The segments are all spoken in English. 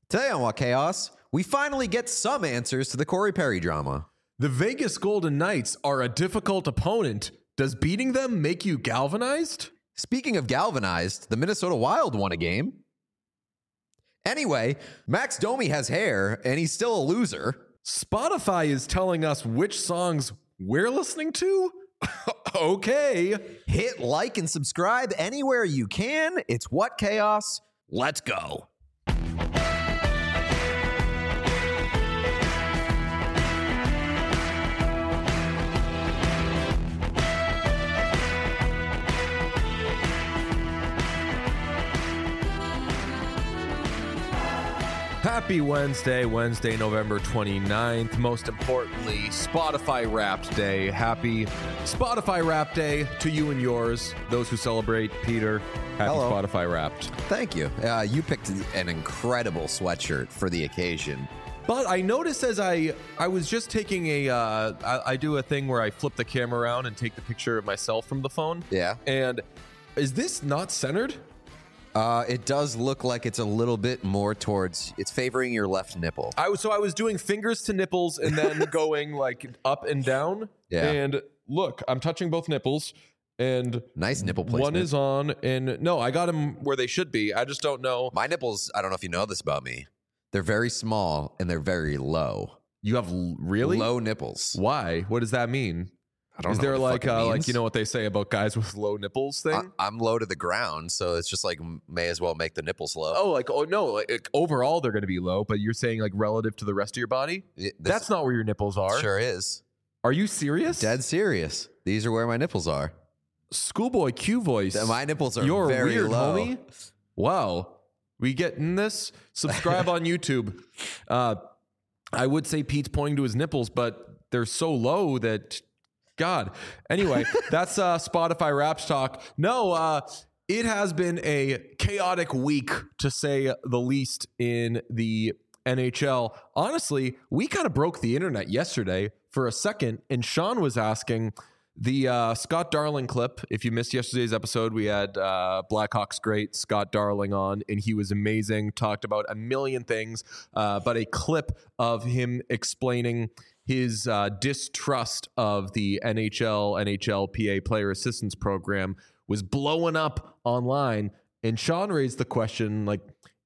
Today on What Chaos, we finally get some answers to the Corey Perry drama. The Vegas Golden Knights are a difficult opponent. Does beating them make you galvanized? Speaking of galvanized, the Minnesota Wild won a game. Anyway, Max Domi has hair, and he's still a loser. Spotify is telling us which songs we're listening to? Okay. Hit like and subscribe anywhere you can. It's What Chaos. Let's go. Happy Wednesday, November 29th. Most importantly, Spotify Wrapped Day. Happy Spotify Wrapped Day to you and yours, those who celebrate. Peter, happy Hello. Spotify Wrapped. Thank you. You picked an incredible sweatshirt for the occasion. But I noticed as I was just taking I do a thing where I flip the camera around and take the picture of myself from the phone. Yeah. And is this not centered? It does look like it's a little bit more towards, it's favoring your left nipple. I was doing fingers to nipples and then going like up and down. Yeah. And look, I'm touching both nipples and Nice nipple placement. one is on and no, I got them where they should be. I just don't know. My nipples, I don't know if you know this about me. They're very small and they're very low. You have really Low nipples. Why? What does that mean? I don't Is know there what the fuck it like means. you know what they say about guys with low nipples thing? I'm low to the ground, so it's just like may as well make the nipples low. Oh no, like overall they're going to be low, but you're saying like relative to the rest of your body? That's not where your nipples are. Sure is. Are you serious? Dead serious. These are where my nipples are. Schoolboy Q voice. My nipples are You're very weird, low. homie. Wow. We getting this? Subscribe on YouTube. I would say Pete's pointing to his nipples, but they're so low that God. Anyway, that's Spotify Wraps Talk. No, it has been a chaotic week, to say the least, in the NHL. Honestly, we kind of broke the internet yesterday for a second, and Sean was asking the Scott Darling clip. If you missed yesterday's episode, we had Blackhawks great Scott Darling on, and he was amazing, talked about a million things, but a clip of him explaining his distrust of the NHLPA Player Assistance Program was blowing up online. And Sean raised the question, like,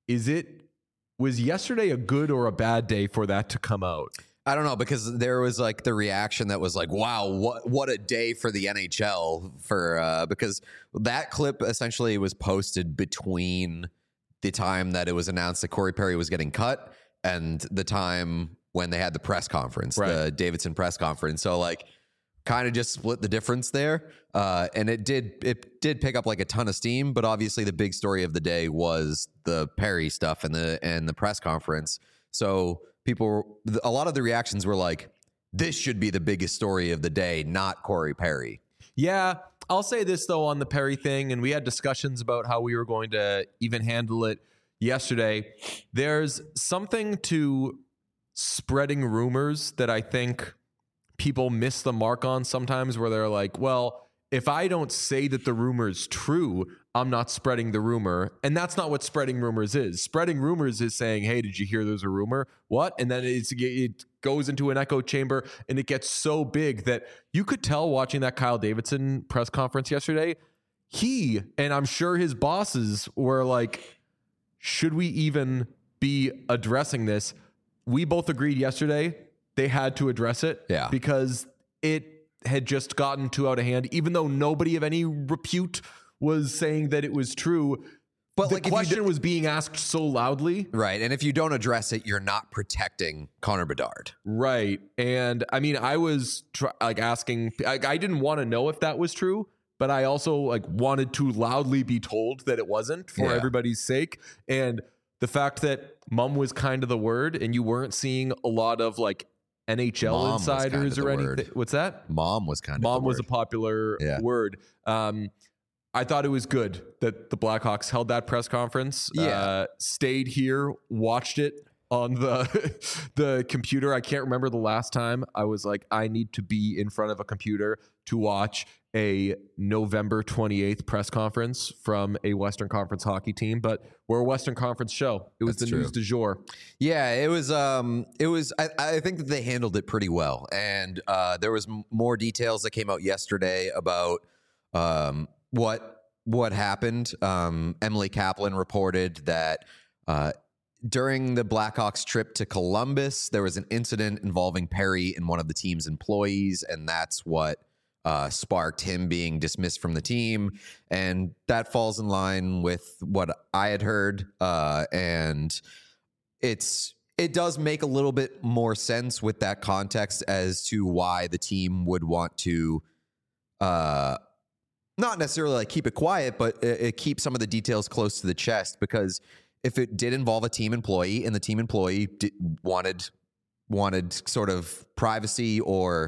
was yesterday a good or a bad day for that to come out? I don't know, because there was like the reaction that was like, wow, what a day for the NHL, for because that clip essentially was posted between the time that it was announced that Corey Perry was getting cut and the time when they had the press conference, Right. the Davidson press conference. So like kind of just split the difference there. And it did pick up like a ton of steam, but obviously the big story of the day was the Perry stuff and the press conference. So a lot of the reactions were like, this should be the biggest story of the day, not Corey Perry. Yeah, I'll say this, though, on the Perry thing, and we had discussions about how we were going to even handle it yesterday. There's something to spreading rumors that I think people miss the mark on sometimes, where they're like, well, if I don't say that the rumor is true, I'm not spreading the rumor. And that's not what spreading rumors is. Spreading rumors is saying, hey, did you hear there's a rumor? What? And then it goes into an echo chamber and it gets so big that you could tell watching that Kyle Davidson press conference yesterday, he, and I'm sure his bosses were like, should we even be addressing this? We both agreed yesterday they had to address it. Yeah. Because it had just gotten too out of hand, even though nobody of any repute was saying that it was true. But the question was being asked so loudly. Right. And if you don't address it, you're not protecting Connor Bedard. Right. And I mean, I was asking, I didn't want to know if that was true, but I also wanted to loudly be told that it wasn't for everybody's sake. And the fact that mum was kind of the word and you weren't seeing a lot of NHL Mom insiders or anything. word. What's that? Mom was kind of Mom the was a word. popular word. I thought it was good that the Blackhawks held that press conference, Yeah. stayed here, watched it on the computer. I can't remember the last time I was like, I need to be in front of a computer to watch a November 28th press conference from a Western Conference hockey team, but we're a Western Conference show. It was the news du jour. Yeah, it was. I think that they handled it pretty well, and there was more details that came out yesterday about what happened. Emily Kaplan reported that during the Blackhawks trip to Columbus, there was an incident involving Perry and one of the team's employees, and that's what sparked him being dismissed from the team. And that falls in line with what I had heard. And it does make a little bit more sense with that context as to why the team would want to not necessarily like keep it quiet, but keep some of the details close to the chest, because if it did involve a team employee and the team employee wanted sort of privacy or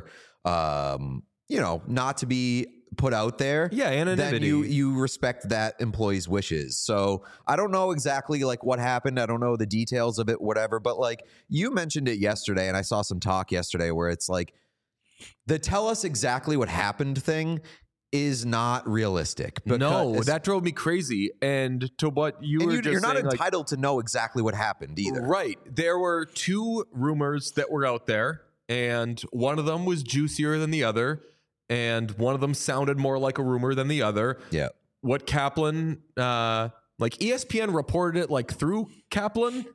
not to be put out there, anonymity, then you respect that employee's wishes. So I don't know exactly like what happened. I don't know the details of it, whatever. But like you mentioned it yesterday, and I saw some talk yesterday where it's like the tell us exactly what happened thing is not realistic. No, that drove me crazy. And to what you're not entitled to know exactly what happened either. Right. There were two rumors that were out there, and one of them was juicier than the other, and one of them sounded more like a rumor than the other. Yeah. What Kaplan, like ESPN reported it like through Kaplan,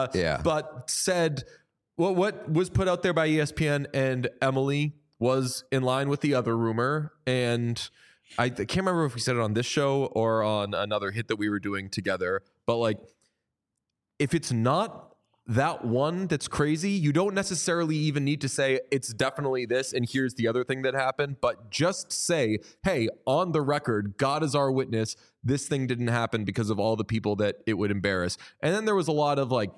but said what was put out there by ESPN and Emily was in line with the other rumor. And I can't remember if we said it on this show or on another hit that we were doing together, but like, if it's not that one that's crazy, you don't necessarily even need to say it's definitely this and here's the other thing that happened, but just say, hey, on the record, God is our witness, this thing didn't happen because of all the people that it would embarrass. And then there was a lot of like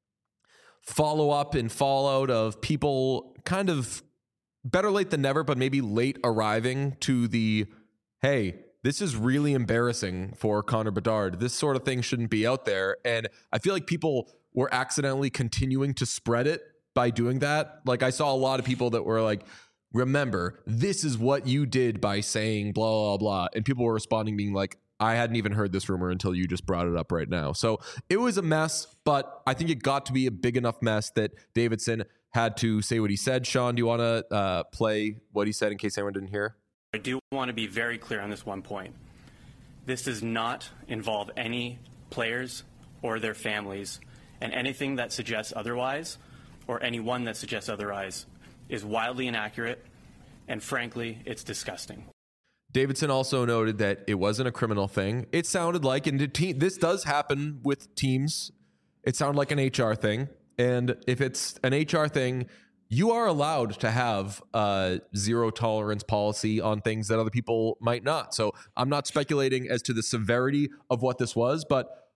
follow up and fallout of people kind of better late than never, but maybe late arriving to the, hey, this is really embarrassing for Connor Bedard. This sort of thing shouldn't be out there. And I feel like people were accidentally continuing to spread it by doing that. Like I saw a lot of people that were like, remember, this is what you did by saying blah, blah, blah. And people were responding being like, I hadn't even heard this rumor until you just brought it up right now. So it was a mess, but I think it got to be a big enough mess that Davidson had to say what he said. Sean, do you want to play what he said in case anyone didn't hear? I do want to be very clear on this one point. This does not involve any players or their families, and anything that suggests otherwise, or anyone that suggests otherwise, is wildly inaccurate, and frankly, it's disgusting. Davidson also noted that it wasn't a criminal thing. It sounded like, and this does happen with teams, it sounded like an HR thing. And if it's an HR thing, you are allowed to have a zero tolerance policy on things that other people might not. So I'm not speculating as to the severity of what this was, but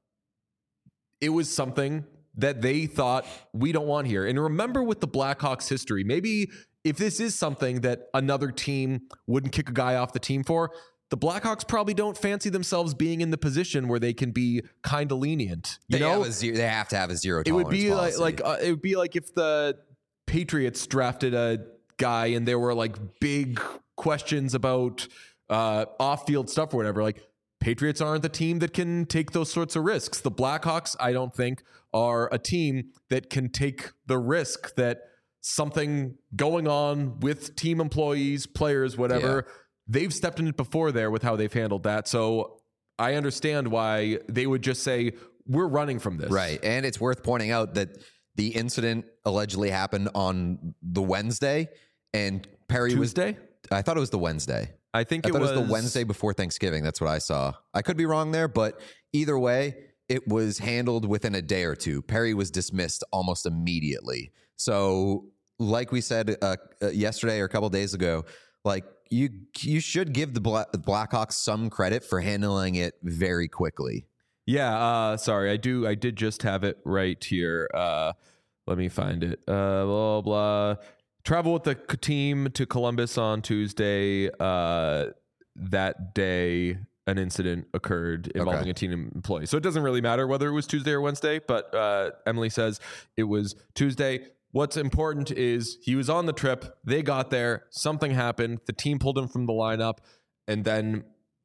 it was something that they thought we don't want here. And remember with the Blackhawks history, maybe if this is something that another team wouldn't kick a guy off the team for, the Blackhawks probably don't fancy themselves being in the position where they can be kind of lenient. You know, they have to have a zero tolerance It would be policy. it would be like if the Patriots drafted a guy and there were like big questions about off-field stuff or whatever. Like Patriots aren't the team that can take those sorts of risks. The Blackhawks, I don't think, are a team that can take the risk that something going on with team employees, players, whatever. Yeah. They've stepped in it before there with how they've handled that. So I understand why they would just say, we're running from this. Right. And it's worth pointing out that the incident allegedly happened on the Wednesday, and Perry Tuesday? I thought it was the Wednesday. I thought it was the Wednesday before Thanksgiving. That's what I saw. I could be wrong there, but either way, it was handled within a day or two. Perry was dismissed almost immediately. So like we said yesterday or a couple of days ago, like you should give the Blackhawks some credit for handling it very quickly. Yeah, sorry, I did just have it right here. Let me find it. Blah blah. Travel with the team to Columbus on Tuesday. That day, an incident occurred involving Okay. a team employee. So it doesn't really matter whether it was Tuesday or Wednesday, but Emily says it was Tuesday. What's important is he was on the trip. They got there. Something happened. The team pulled him from the lineup. And then,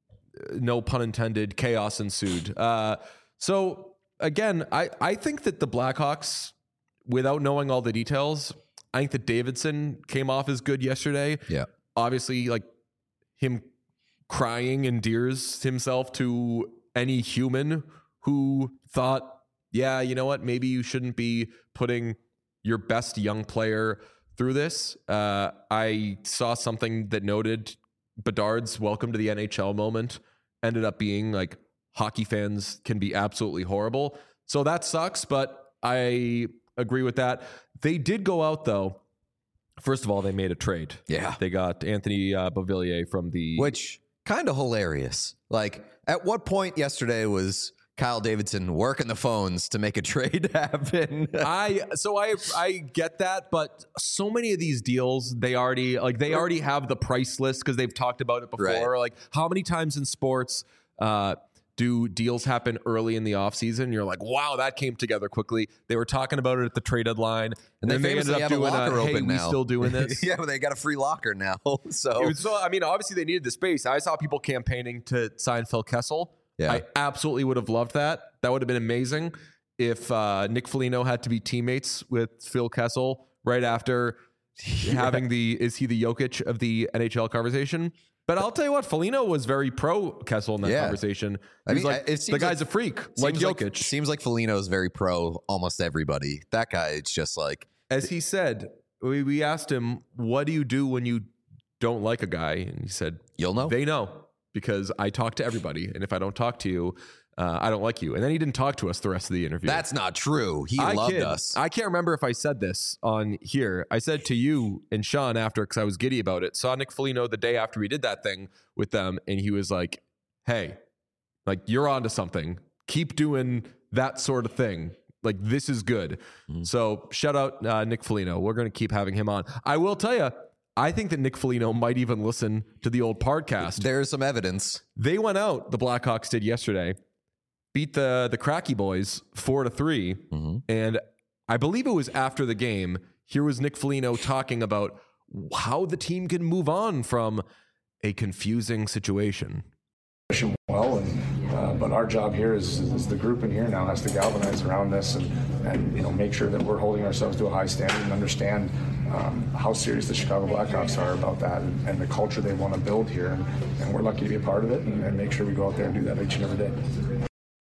no pun intended, chaos ensued. So again, I think that the Blackhawks, without knowing all the details, I think that Davidson came off as good yesterday. Yeah. Obviously, like him crying endears himself to any human who thought, yeah, you know what, maybe you shouldn't be putting your best young player through this. I saw something that noted Bedard's welcome to the NHL moment ended up being like hockey fans can be absolutely horrible. So that sucks, but I agree with that. They did go out though. First of all, they made a trade. Yeah. They got Anthony Beauvillier from the... Which kind of hilarious. Like, at what point yesterday was Kyle Davidson working the phones to make a trade happen? I get that, but so many of these deals, they already have the price list because they've talked about it before. Right. Like, how many times in sports do deals happen early in the offseason? You're like, wow, that came together quickly. They were talking about it at the trade deadline, and then they ended famously up have a doing locker hey, open we now. still doing this? Yeah, but they got a free locker now. So I mean, obviously they needed the space. I saw people campaigning to sign Phil Kessel. Yeah. I absolutely would have loved that. That would have been amazing if Nick Foligno had to be teammates with Phil Kessel right after having is he the Jokic of the NHL conversation? But I'll tell you what, Foligno was very pro Kessel in that conversation. I mean, like, it seems the guy's like- a freak, like seems Jokic. Seems like Foligno's very pro almost everybody. That guy, it's just like, As he said, we asked him, what do you do when you don't like a guy? And he said, you'll know. they know because I talk to everybody. And if I don't talk to you, I don't like you. And then he didn't talk to us the rest of the interview. That's not true. He I loved kid. us. I can't remember if I said this on here. I said to you and Sean after, because I was giddy about it, saw Nick Foligno the day after we did that thing with them. And he was like, hey, like, you're onto something. Keep doing that sort of thing. Like, this is good. So shout out Nick Foligno. We're going to keep having him on. I will tell you, I think that Nick Foligno might even listen to the old podcast. There's some evidence. They went out, the Blackhawks did yesterday, beat the Cracky boys 4-3. And I believe it was after the game. Here was Nick Foligno talking about how the team can move on from a confusing situation. Well, but our job here is the group in here now has to galvanize around this and make sure that we're holding ourselves to a high standard and understand how serious the Chicago Blackhawks are about that and the culture they want to build here. And we're lucky to be a part of it and make sure we go out there and do that each and every day.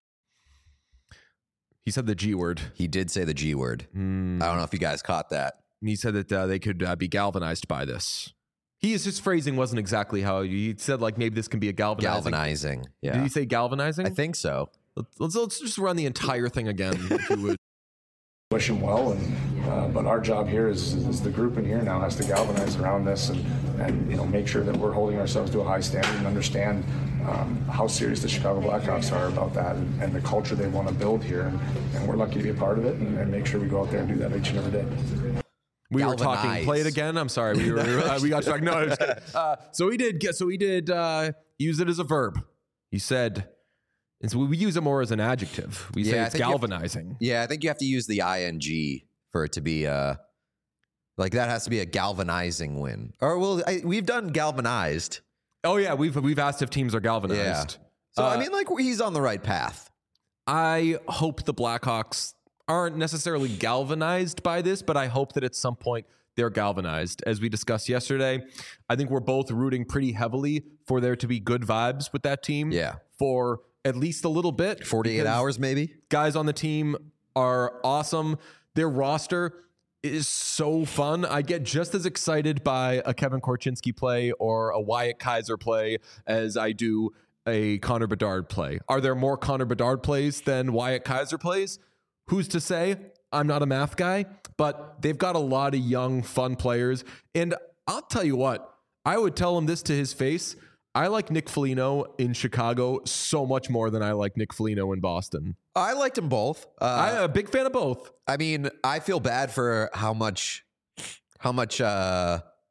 He said the G word. He did say the G word. I don't know if you guys caught that. He said that they could be galvanized by this. His phrasing wasn't exactly how he said, like, maybe this can be a galvanizing. Yeah. Did he say galvanizing? I think so. Let's just run the entire thing again, if you would. Wish him well, but our job here is the group in here now has to galvanize around this and make sure that we're holding ourselves to a high standard and understand how serious the Chicago Blackhawks are about that and the culture they want to build here. And we're lucky to be a part of it and make sure we go out there and do that each and every day. We were Galvanize. talking. Play it again. I'm sorry. We got talking. No, I was kidding. So he did use it as a verb. He said, and so we use it more as an adjective. We say I it's think you have to- galvanizing. Yeah, I think you have to use the ing for it to be like that has to be a galvanizing win. Or we've done galvanized. Oh yeah, we've asked if teams are galvanized. So I mean, like, he's on the right path. I hope the Blackhawks aren't necessarily galvanized by this, but I hope that at some point they're galvanized. As we discussed yesterday, I think we're both rooting pretty heavily for there to be good vibes with that team. Yeah. For at least a little bit. 48 because hours, maybe. guys on the team are awesome. Their roster is so fun. I get just as excited by a Kevin Korchinski play or a Wyatt Kaiser play as I do a Connor Bedard play. Are there more Connor Bedard plays than Wyatt Kaiser plays? Who's to say? I'm not a math guy, but they've got a lot of young, fun players. And I'll tell you what, I would tell him this to his face. I like Nick Foligno in Chicago so much more than I like Nick Foligno in Boston. I liked them both. I'm a big fan of both. I mean, I feel bad for how much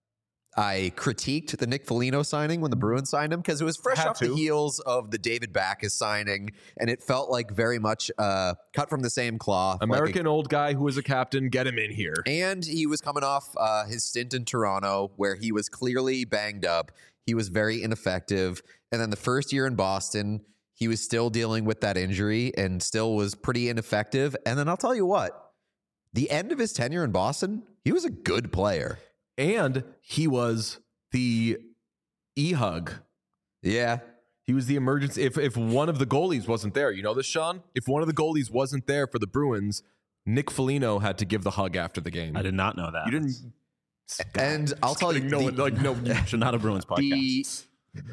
I critiqued the Nick Foligno signing when the Bruins signed him because it was fresh Had off to. the heels of the David Backes signing, and it felt like very much cut from the same cloth. American old guy who was a captain, get him in here. And he was coming off his stint in Toronto where he was clearly banged up. He was very ineffective. And then the first year in Boston, he was still dealing with that injury and still was pretty ineffective. And then I'll tell you what, the end of his tenure in Boston, he was a good player. And he was the e-hug. Yeah. He was the emergency. If one of the goalies wasn't there, you know this, Sean? If one of the goalies wasn't there for the Bruins, Nick Foligno had to give the hug after the game. I did not know that. You didn't. And I'll tell you, Should not a Bruins podcast.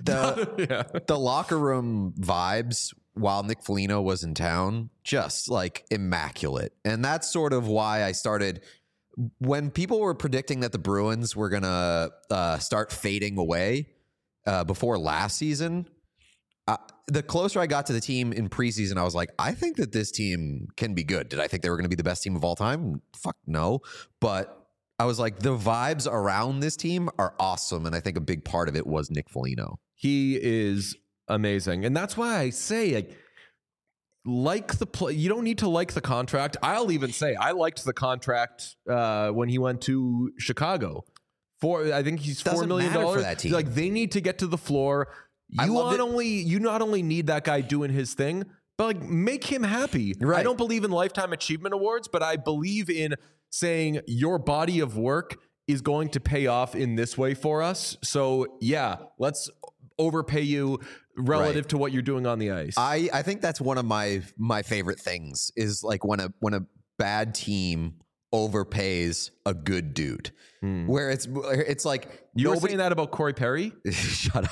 the locker room vibes while Nick Foligno was in town, just like immaculate. And that's sort of why I started, when people were predicting that the Bruins were going to start fading away before last season, the closer I got to the team in preseason, I was like, I think that this team can be good. Did I think they were going to be the best team of all time? Fuck no. But I was like, the vibes around this team are awesome. And I think a big part of it was Nick Foligno. He is amazing. And that's why I say, like the play, you don't need to like the contract. I'll even say I liked the contract when he went to Chicago. I think he's $4 million for that team. Like, they need to get to the floor. You not only need that guy doing his thing, but like make him happy. Right. I don't believe in lifetime achievement awards, but I believe in saying your body of work is going to pay off in this way for us. So yeah, let's overpay you relative to what you're doing on the ice. I think that's one of my favorite things is like when a bad team overpays a good dude, where it's like you were saying that about Corey Perry. Shut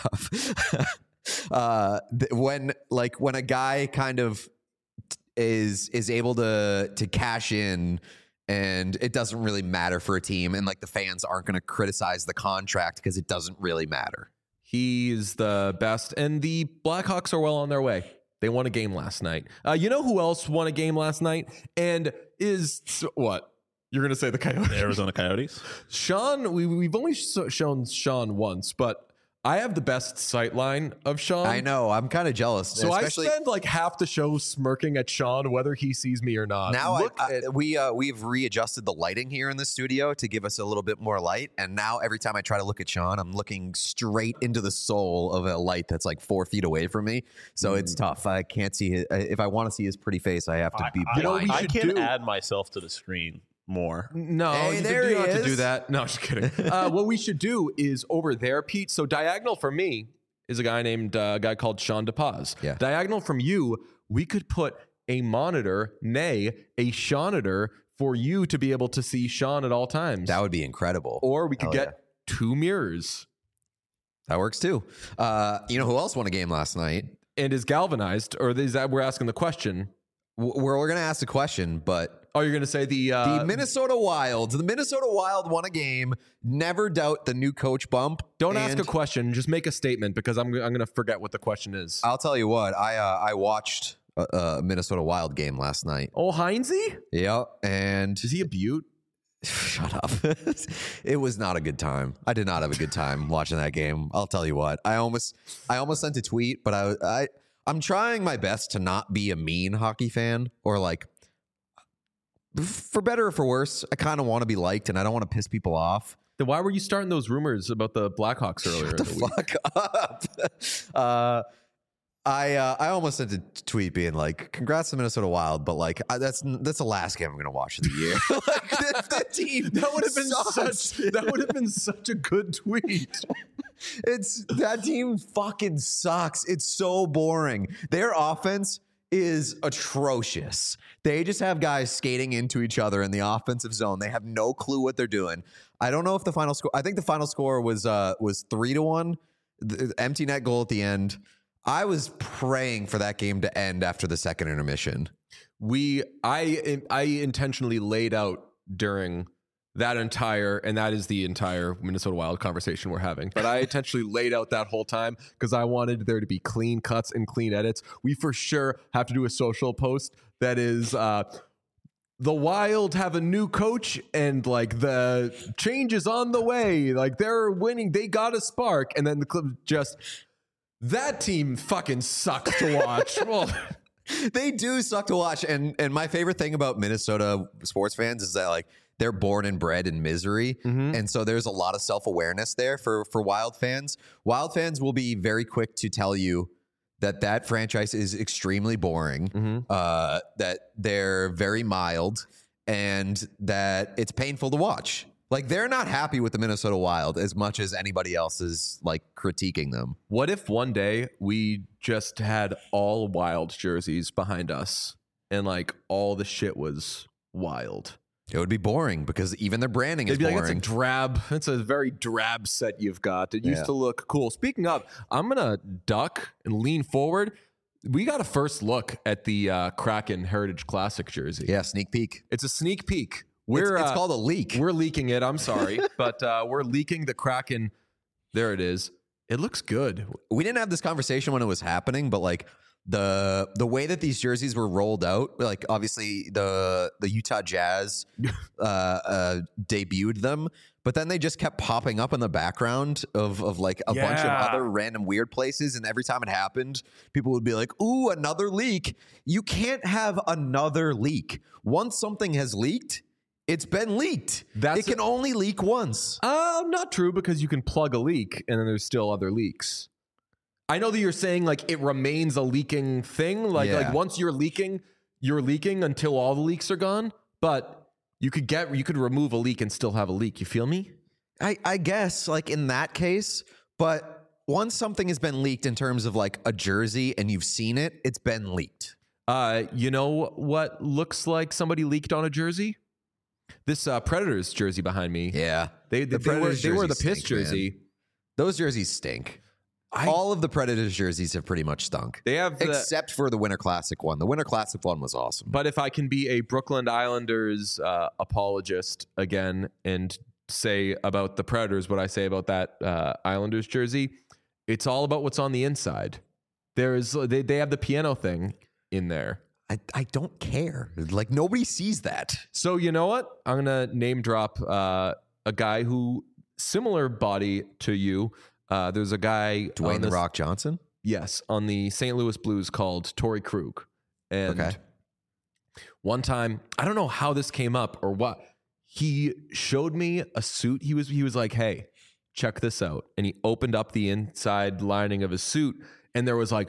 up. When a guy kind of is able to cash in, and it doesn't really matter for a team, and like the fans aren't going to criticize the contract because it doesn't really matter. He's the best, and the Blackhawks are well on their way. They won a game last night. You know who else won a game last night? And is what? You're going to say the Coyotes? The Arizona Coyotes. Sean, we've only shown Sean once, but I have the best sight line of Sean. I know. I'm kind of jealous. So especially, I spend like half the show smirking at Sean, whether he sees me or not. Now we've readjusted the lighting here in the studio to give us a little bit more light. And now every time I try to look at Sean, I'm looking straight into the soul of a light that's like 4 feet away from me. So it's tough. I can't see his, if I want to see his pretty face, I have to be blind. I can add myself to the screen more. No, hey, you there don't he have to is. do that. No, just kidding. What we should do is over there, Pete. So diagonal for me is a guy named a guy called Sean DePaz. Yeah. Diagonal from you, we could put a monitor, nay, a Seanator for you to be able to see Sean at all times. That would be incredible. Or we could Hell get 2 mirrors. That works too. You know who else won a game last night? And is galvanized, or is that we're asking the question? We're going to ask the question, but Oh, you're going to say the Minnesota Wild. The Minnesota Wild won a game. Never doubt the new coach bump. Don't ask a question. Just make a statement, because I'm going to forget what the question is. I'll tell you what. I watched a Minnesota Wild game last night. Oh, Heinze? Yeah, and Is he a beaut? shut up. It was not a good time. I did not have a good time watching that game. I'll tell you what. I almost sent a tweet, but I'm trying my best to not be a mean hockey fan, or like, for better or for worse, I kind of want to be liked, and I don't want to piss people off. Then why were you starting those rumors about the Blackhawks earlier in Shut the week? fuck up. I almost sent a tweet being like, "Congrats to Minnesota Wild," but like that's the last game I'm going to watch of the year. Like the team That would have been sucks. that would have been such a good tweet. That team fucking sucks. It's so boring. Their offense is atrocious. They just have guys skating into each other in the offensive zone. They have no clue what they're doing. I don't know if the final score, I think the final score was 3-1, the empty net goal at the end. I was praying for that game to end after the second intermission. I intentionally laid out during that is the entire Minnesota Wild conversation we're having. But I intentionally laid out that whole time because I wanted there to be clean cuts and clean edits. We for sure have to do a social post that is the Wild have a new coach and like the change is on the way. Like they're winning. They got a spark. And then the Clippers just, that team fucking sucks to watch. Well, They do suck to watch. And my favorite thing about Minnesota sports fans is that like they're born and bred in misery. And so there's a lot of self-awareness there for Wild fans. Wild fans will be very quick to tell you that franchise is extremely boring, that they're very mild, and that it's painful to watch. Like, they're not happy with the Minnesota Wild as much as anybody else is, like, critiquing them. what if one day we just had all Wild jerseys behind us and like all the shit was Wild? It would be boring because even their branding is It'd be like, boring. it's a very drab set you've got. It used to look cool. Speaking of, I'm going to duck and lean forward. We got a first look at the Kraken Heritage Classic jersey. Yeah, sneak peek. It's a sneak peek. It's called a leak. We're leaking it. I'm sorry. But we're leaking the Kraken. There it is. It looks good. We didn't have this conversation when it was happening, but like the way that these jerseys were rolled out, like obviously the Utah Jazz debuted them, but then they just kept popping up in the background of like a bunch of other random weird places, and every time it happened, people would be like, "Ooh, another leak." You can't have another leak. Once something has leaked, it's been leaked. It can only leak once. Not true, because you can plug a leak and then there's still other leaks. I know that you're saying like it remains a leaking thing. Like once you're leaking until all the leaks are gone. But you could remove a leak and still have a leak. You feel me? I guess like in that case, but once something has been leaked in terms of like a jersey and you've seen it, it's been leaked. You know what looks like somebody leaked on a jersey? This Predators jersey behind me. Yeah. They were the piss jersey. Man. Those jerseys stink. All of the Predators jerseys have pretty much stunk. They have except for the Winter Classic one. The Winter Classic one was awesome. But if I can be a Brooklyn Islanders apologist again and say about the Predators what I say about that Islanders jersey, it's all about what's on the inside. They have the piano thing in there. I don't care. Like, nobody sees that. So you know what? I'm going to name drop a guy who, similar body to you. There's a guy... Dwayne "The Rock" Johnson? Yes, on the St. Louis Blues called Torrey Krug. And one time, I don't know how this came up or what, he showed me a suit. He was like, "Hey, check this out." And he opened up the inside lining of his suit, and there was like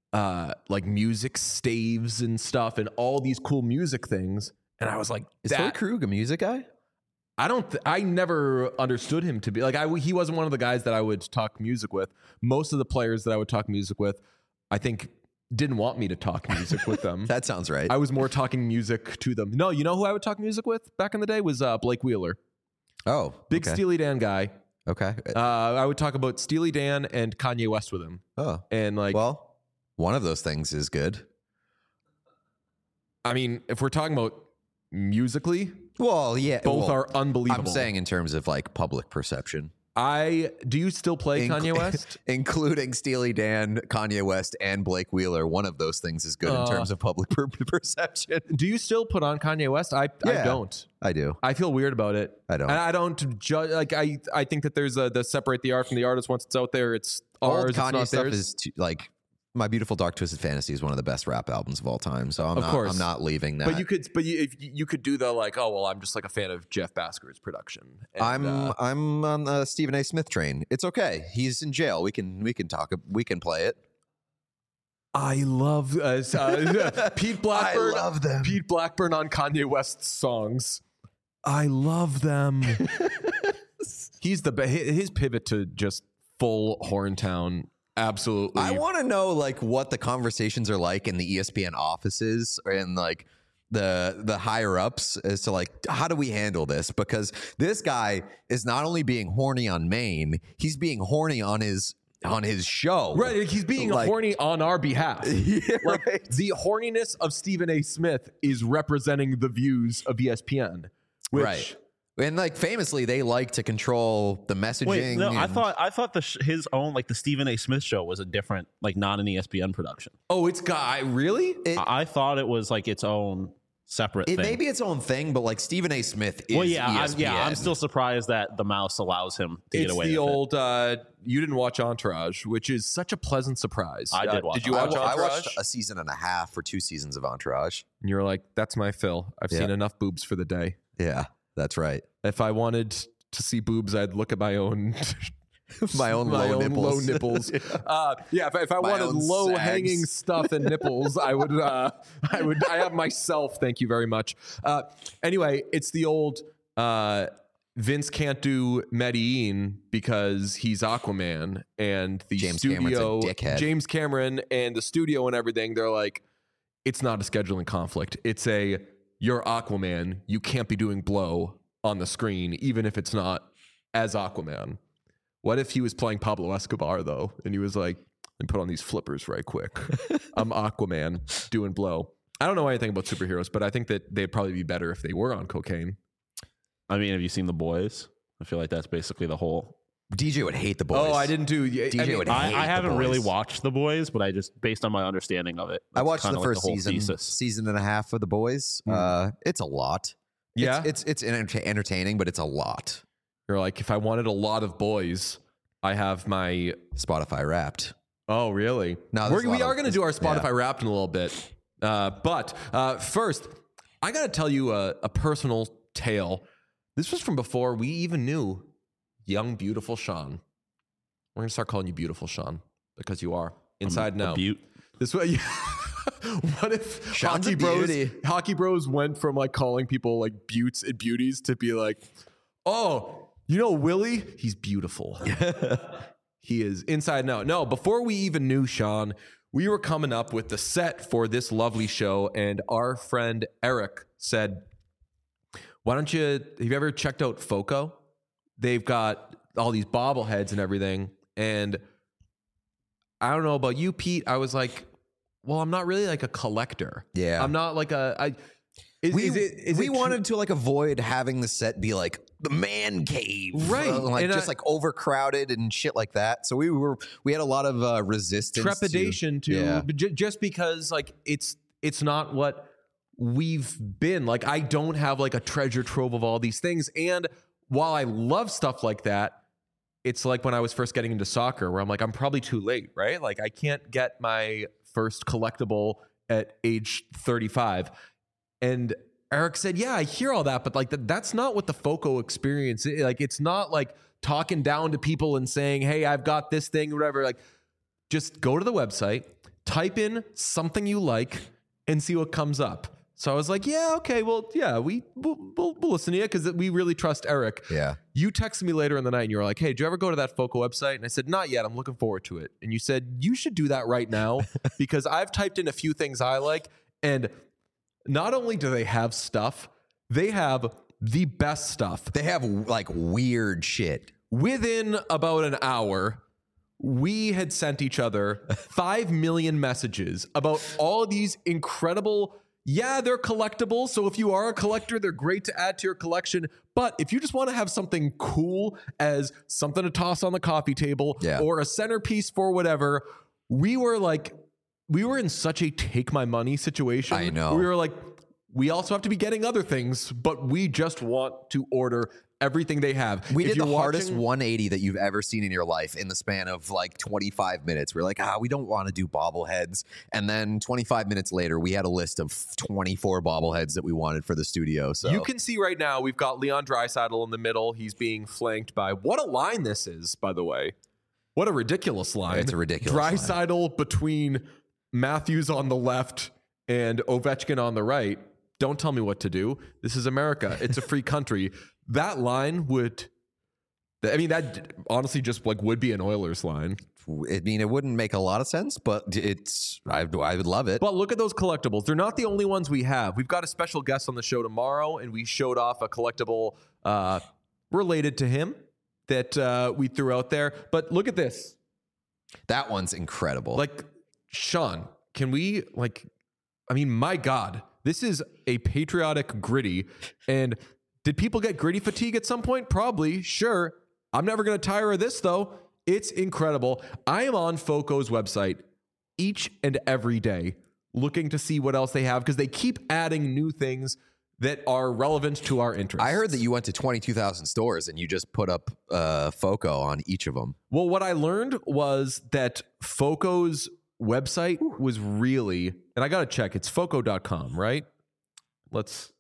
music staves and stuff and all these cool music things. And I was like, is Torrey Krug a music guy? I never understood him to be like, he wasn't one of the guys that I would talk music with. Most of the players that I would talk music with, I think didn't want me to talk music with them. That sounds right. I was more talking music to them. No, you know who I would talk music with back in the day was Blake Wheeler. Oh, big Steely Dan guy. Okay. I would talk about Steely Dan and Kanye West with him. Oh, and like, well, one of those things is good. I mean, if we're talking about musically, well, yeah, both are unbelievable. I'm saying in terms of like public perception. Do you still play Kanye West? Including Steely Dan, Kanye West, and Blake Wheeler. One of those things is good in terms of public perception. Do you still put on Kanye West? I don't. I do. I feel weird about it. I don't. And I don't judge. Like I think that there's the separate the art from the artist. Once it's out there, it's ours. Old Kanye it's not stuff theirs. is like My Beautiful Dark Twisted Fantasy is one of the best rap albums of all time. So I'm not leaving that. But if you could do the like, oh well, I'm just like a fan of Jeff Basker's production. And, I'm on the Stephen A. Smith train. It's okay. He's in jail. We can talk. We can play it. I love Pete Blackburn. I love them. Pete Blackburn on Kanye West's songs. I love them. He's his pivot to just full Horntown. Absolutely. I want to know like what the conversations are like in the ESPN offices and like the higher ups as to like, how do we handle this? Because this guy is not only being horny on Maine, he's being horny on his show. Right. He's being horny on our behalf. Yeah, like, right. The horniness of Stephen A. Smith is representing the views of ESPN. Right. And like famously, they like to control the messaging. Wait, no, I thought his own like the Stephen A. Smith show was a different, like not an ESPN production. Oh, it's really? I thought it was like its own separate It thing. may be its own thing, but like Stephen A. Smith is ESPN. I'm still surprised that the mouse allows him to get It's away the with old, you didn't watch Entourage, which is such a pleasant surprise. I did watch Did you I, watch wa- I Entourage? watched a season and a half or 2 seasons of Entourage. And you're like, that's my fill. I've Yeah. seen enough boobs for the day. Yeah, that's right. If I wanted to see boobs, I'd look at my own My own low nipples. low nipples. If I My wanted own low hanging sags. stuff and nipples, I have myself. Thank you very much. Anyway, it's the old Vince can't do Medellin because he's Aquaman, and the James Cameron's a studio, dickhead. James Cameron and the studio and everything, they're like, it's not a scheduling conflict. It's you're Aquaman. You can't be doing blow on the screen, even if it's not as Aquaman. What if he was playing Pablo Escobar, though, and he was like, let me put on these flippers right quick. I'm Aquaman doing blow. I don't know anything about superheroes, but I think that they'd probably be better if they were on cocaine. I mean, have you seen The Boys? I feel like that's basically the whole. DJ would hate the boys. Oh, I didn't do. DJ would hate I haven't The really Boys. watched The Boys, but I just, based on my understanding of it, I that's watched kinda the like first whole season, thesis. season and a half of the boys. It's a lot. Yeah? it's entertaining, but it's a lot. You're like, if I wanted a lot of boys, I have my. Spotify Wrapped. Oh, really? No, there's a we lot are of- going to do our Spotify yeah. Wrapped in a little bit. But first, I got to tell you a personal tale. This was from before we even knew young, beautiful Sean. We're going to start calling you beautiful Sean because you are inside now. Butte. This way, what if Sean's a beauty. Hockey Bros went from like calling people like buttes and beauties to be like, oh, you know Willie? He's beautiful. He is inside now. No, before we even knew Sean, we were coming up with the set for this lovely show, and our friend Eric said, why don't you, have you ever checked out Foco? They've got all these bobbleheads and everything. And I don't know about you, Pete. I was like, well, I'm not really like a collector. Yeah. I'm not like We wanted to like avoid having the set be like the man cave, Right. Like And just like overcrowded and shit like that. So we had a lot of resistance, trepidation to Yeah. just because like it's not what we've been. Like I don't have like a treasure trove of all these things. And while I love stuff like that, it's like when I was first getting into soccer where I'm like, I'm probably too late, right? Like I can't get my first collectible at age 35. And Eric said, yeah, I hear all that, but like that's not what the Foco experience is. Like it's not like talking down to people and saying, hey, I've got this thing or whatever. Like just go to the website, type in something you like and see what comes up. So I was like, yeah, okay, well, yeah, we'll listen to you because we really trust Eric. Yeah. You texted me later in the night and you were like, hey, did you ever go to that Foco website? And I said, not yet. I'm looking forward to it. And you said, you should do that right now because I've typed in a few things I like. And not only do they have stuff, they have the best stuff. They have like weird shit. Within about an hour, we had sent each other 5 million messages about all these incredible. Yeah, they're collectible. So if you are a collector, they're great to add to your collection. But if you just want to have something cool as something to toss on the coffee table Yeah. or a centerpiece for whatever, we were in such a take my money situation. I know. We were like, we also have to be getting other things, but we just want to order everything they have. We If did the you're hardest watching- 180 that you've ever seen in your life in the span of like 25 minutes. We're like, we don't want to do bobbleheads. And then 25 minutes later, we had a list of 24 bobbleheads that we wanted for the studio. So You can see right now we've got Leon Draisaitl in the middle. He's being flanked by what a line this is, by the way. What a ridiculous line. It's a ridiculous line. Draisaitl between Matthews on the left and Ovechkin on the right. Don't tell me what to do. This is America. It's a free country. That line that honestly just like would be an Oilers line. I mean, it wouldn't make a lot of sense, but I would love it. But look at those collectibles. They're not the only ones we have. We've got a special guest on the show tomorrow, and we showed off a collectible related to him that we threw out there. But look at this. That one's incredible. Like, Sean, can we, my God, this is a patriotic gritty. And did people get gritty fatigue at some point? Probably, sure. I'm never going to tire of this, though. It's incredible. I am on Foco's website each and every day looking to see what else they have because they keep adding new things that are relevant to our interests. I heard that you went to 22,000 stores and you just put up FOCO on each of them. Well, what I learned was that FOCO's website was really, and I got to check, it's FOCO.com, right? Let's.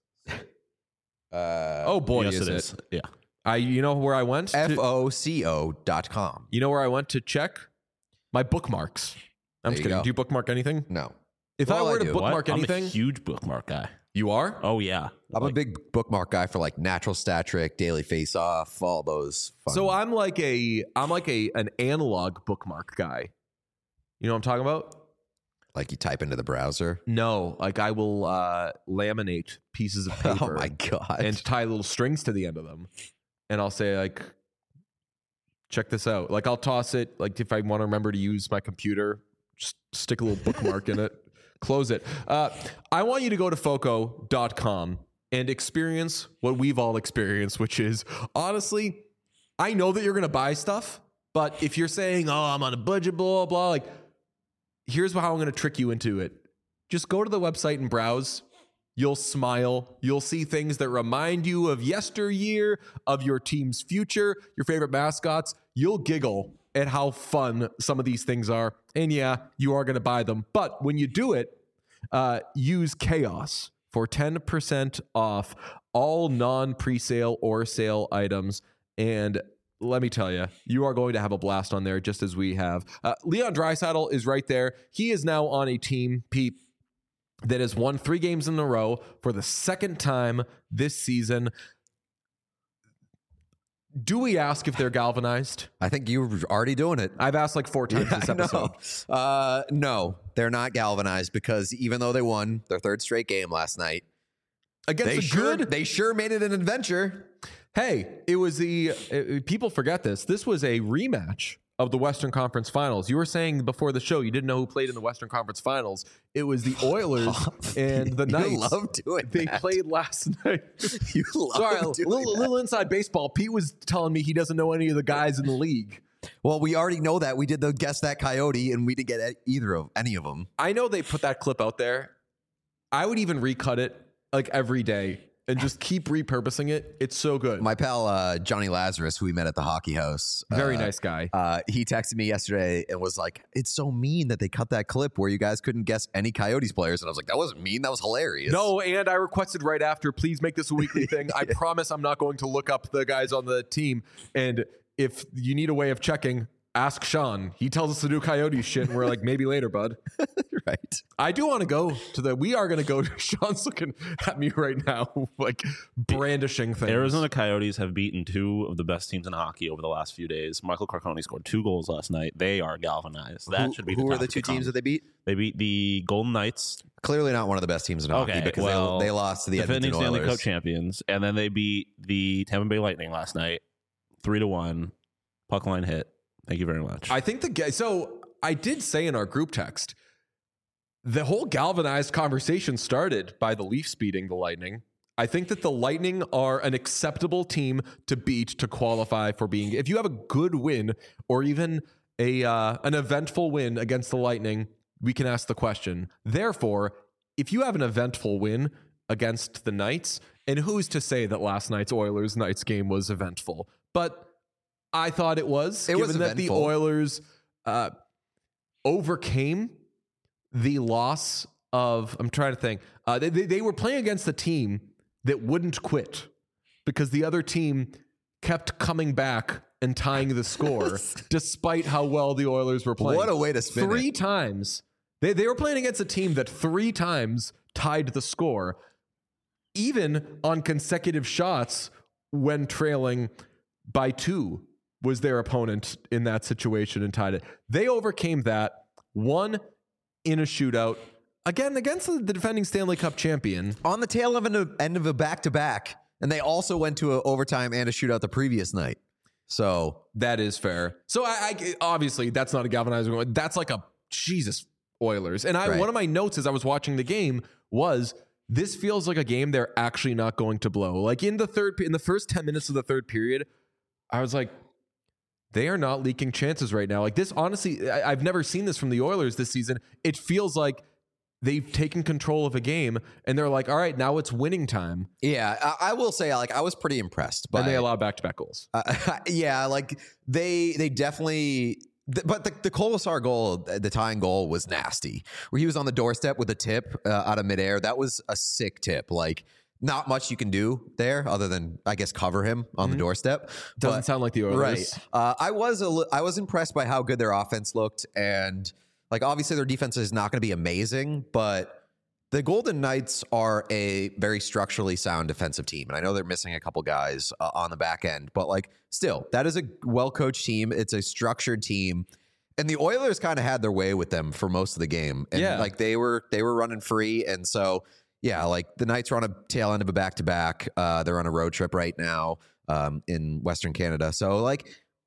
Oh boy, Yes, is it it? is. Yeah. You know where I went? FOCO.com. You know where I went to check? My bookmarks. I'm There just you kidding. go. Do you bookmark anything? No. If Well, I were I to do. bookmark I'm anything, a huge bookmark guy. you are? Oh yeah. I'm a big bookmark guy for like Natural Stat Trick, Daily Face Off, all those fun. So I'm like an analog bookmark guy. You know what I'm talking about? like you type into the browser. No, like I will laminate pieces of paper Oh my god. and tie little strings to the end of them. And I'll say like, check this out. Like I'll toss it, like if I want to remember to use my computer, just stick a little bookmark in it, close it. I want you to go to foco.com and experience what we've all experienced, which is honestly, I know that you're going to buy stuff, but if you're saying, oh, I'm on a budget, blah, blah, like, here's how I'm going to trick you into it. Just go to the website and browse. You'll smile. You'll see things that remind you of yesteryear, of your team's future, your favorite mascots. You'll giggle at how fun some of these things are. And yeah, you are going to buy them. But when you do it, use Chaos for 10% off all non-presale or sale items. And let me tell you, you are going to have a blast on there just as we have. Leon Draisaitl is right there. He is now on a team, Pete, that has won 3 games in a row for the second time this season. Do we ask if they're galvanized? I think you're already doing it. I've asked like 4 times this episode. No, they're not galvanized because even though they won their 3rd straight game last night, Against they sure made it an adventure. Hey, it was people forget this. This was a rematch of the Western Conference Finals. You were saying before the show you didn't know who played in the Western Conference Finals. It was the Oilers and the Knights. You love doing They that. played last night. You love Sorry, doing little inside baseball. Pete was telling me he doesn't know any of the guys in the league. Well, we already know that. We did the Guess That Coyote, and we didn't get any of them. I know they put that clip out there. I would even recut it like every day and just keep repurposing it. It's so good. My pal Johnny Lazarus, who we met at the hockey house, Very nice guy. he texted me yesterday and was like, "It's so mean that they cut that clip where you guys couldn't guess any Coyotes players." And I was like, "That wasn't mean. That was hilarious." No, and I requested right after, please make this a weekly thing. I promise I'm not going to look up the guys on the team. And if you need a way of checking, ask Sean. He tells us to do Coyotes shit, and we're like, maybe later, bud. right. I do want to go to we are going to go to, Sean's looking at me right now, like brandishing things. Arizona Coyotes have beaten 2 of the best teams in hockey over the last few days. Michael Carcone scored 2 goals last night. They are galvanized. That should be. Who the were top the of 2 teams that they beat? They beat the Golden Knights. Clearly not one of the best teams in hockey because they lost to the defending Edmonton Stanley Oilers. Cup champions, and then they beat the Tampa Bay Lightning last night, 3-1. Puck line hit. Thank you very much. I think so I did say in our group text, the whole galvanized conversation started by the Leafs beating the Lightning. I think that the Lightning are an acceptable team to beat to qualify for being. If you have a good win or even an eventful win against the Lightning, we can ask the question. Therefore, if you have an eventful win against the Knights, and who's to say that last night's Oilers-Knights game was eventful? But I thought it was. It was given that the eventful. Oilers overcame the loss of. I'm trying to think. They were playing against a team that wouldn't quit because the other team kept coming back and tying the score despite how well the Oilers were playing. What a way to spin 3 it. times. They were playing against a team that 3 times tied the score, even on consecutive shots when trailing by 2 was their opponent in that situation and tied it. They overcame that, won in a shootout, again against the defending Stanley Cup champion. On the tail of end of a back-to-back, and they also went to an overtime and a shootout the previous night. So That is fair. So I obviously that's not a galvanizing one. That's like a Jesus Oilers. And Right. one of my notes as I was watching the game was this feels like a game they're actually not going to blow. Like in the first 10 minutes of the third period, I was like, they are not leaking chances right now. Like this, honestly, I've never seen this from the Oilers this season. It feels like they've taken control of a game and they're like, all right, now it's winning time. Yeah, I will say, like, I was pretty impressed by. And they allow back-to-back goals. Yeah, like they definitely. But the Colasar goal, the tying goal, was nasty. Where he was on the doorstep with a tip out of midair. That was a sick tip. Like, not much you can do there other than, I guess, cover him on the doorstep. Doesn't sound like the Oilers. Right. I was impressed by how good their offense looked, and like obviously their defense is not going to be amazing, but the Golden Knights are a very structurally sound defensive team, and I know they're missing a couple guys on the back end, but like still, that is a well-coached team. It's a structured team, and the Oilers kind of had their way with them for most of the game, and like they were running free, and so yeah, like the Knights are on a tail end of a back-to-back. They're on a road trip right now in Western Canada, so like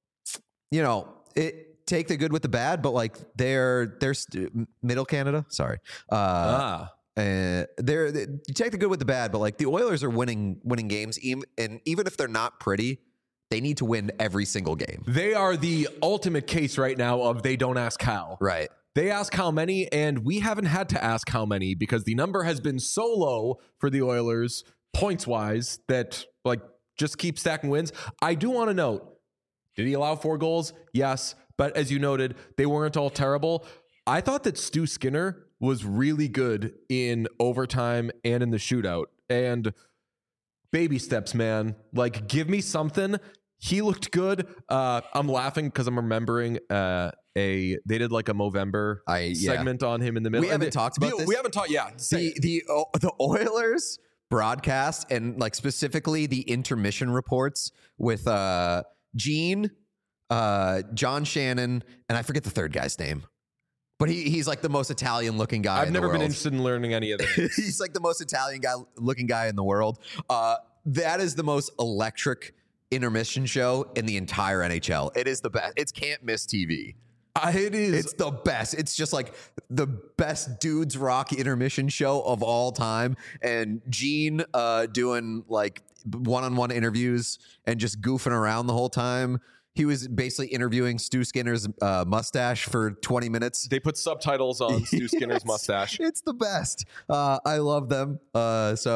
take the good with the bad, but like they're Middle Canada. Sorry. You take the good with the bad, but like the Oilers are winning games, and even if they're not pretty, they need to win every single game. They are the ultimate case right now of they don't ask how. Right. They ask how many, and we haven't had to ask how many because the number has been so low for the Oilers points-wise that like just keep stacking wins. I do want to note, did he allow 4 goals? Yes. But as you noted, they weren't all terrible. I thought that Stu Skinner was really good in overtime and in the shootout. And baby steps, man. Like, give me something. He looked good. I'm laughing because I'm remembering they did like a Movember segment on him in the middle. We haven't talked about this. We haven't talked. Yeah. The Oilers broadcast, and like specifically the intermission reports with Gene, John Shannon, and I forget the third guy's name. But he's like the most Italian looking guy. I've never been interested in learning any of this. He's like the most Italian looking guy in the world. That is the most electric intermission show in the entire NHL. It is the best. It's can't miss TV. It is. It's the best. It's just like the best dudes rock intermission show of all time. And Gene doing like one-on-one interviews and just goofing around the whole time. He was basically interviewing Stu Skinner's mustache for 20 minutes. They put subtitles on Stu Skinner's mustache. It's the best. I love them. One of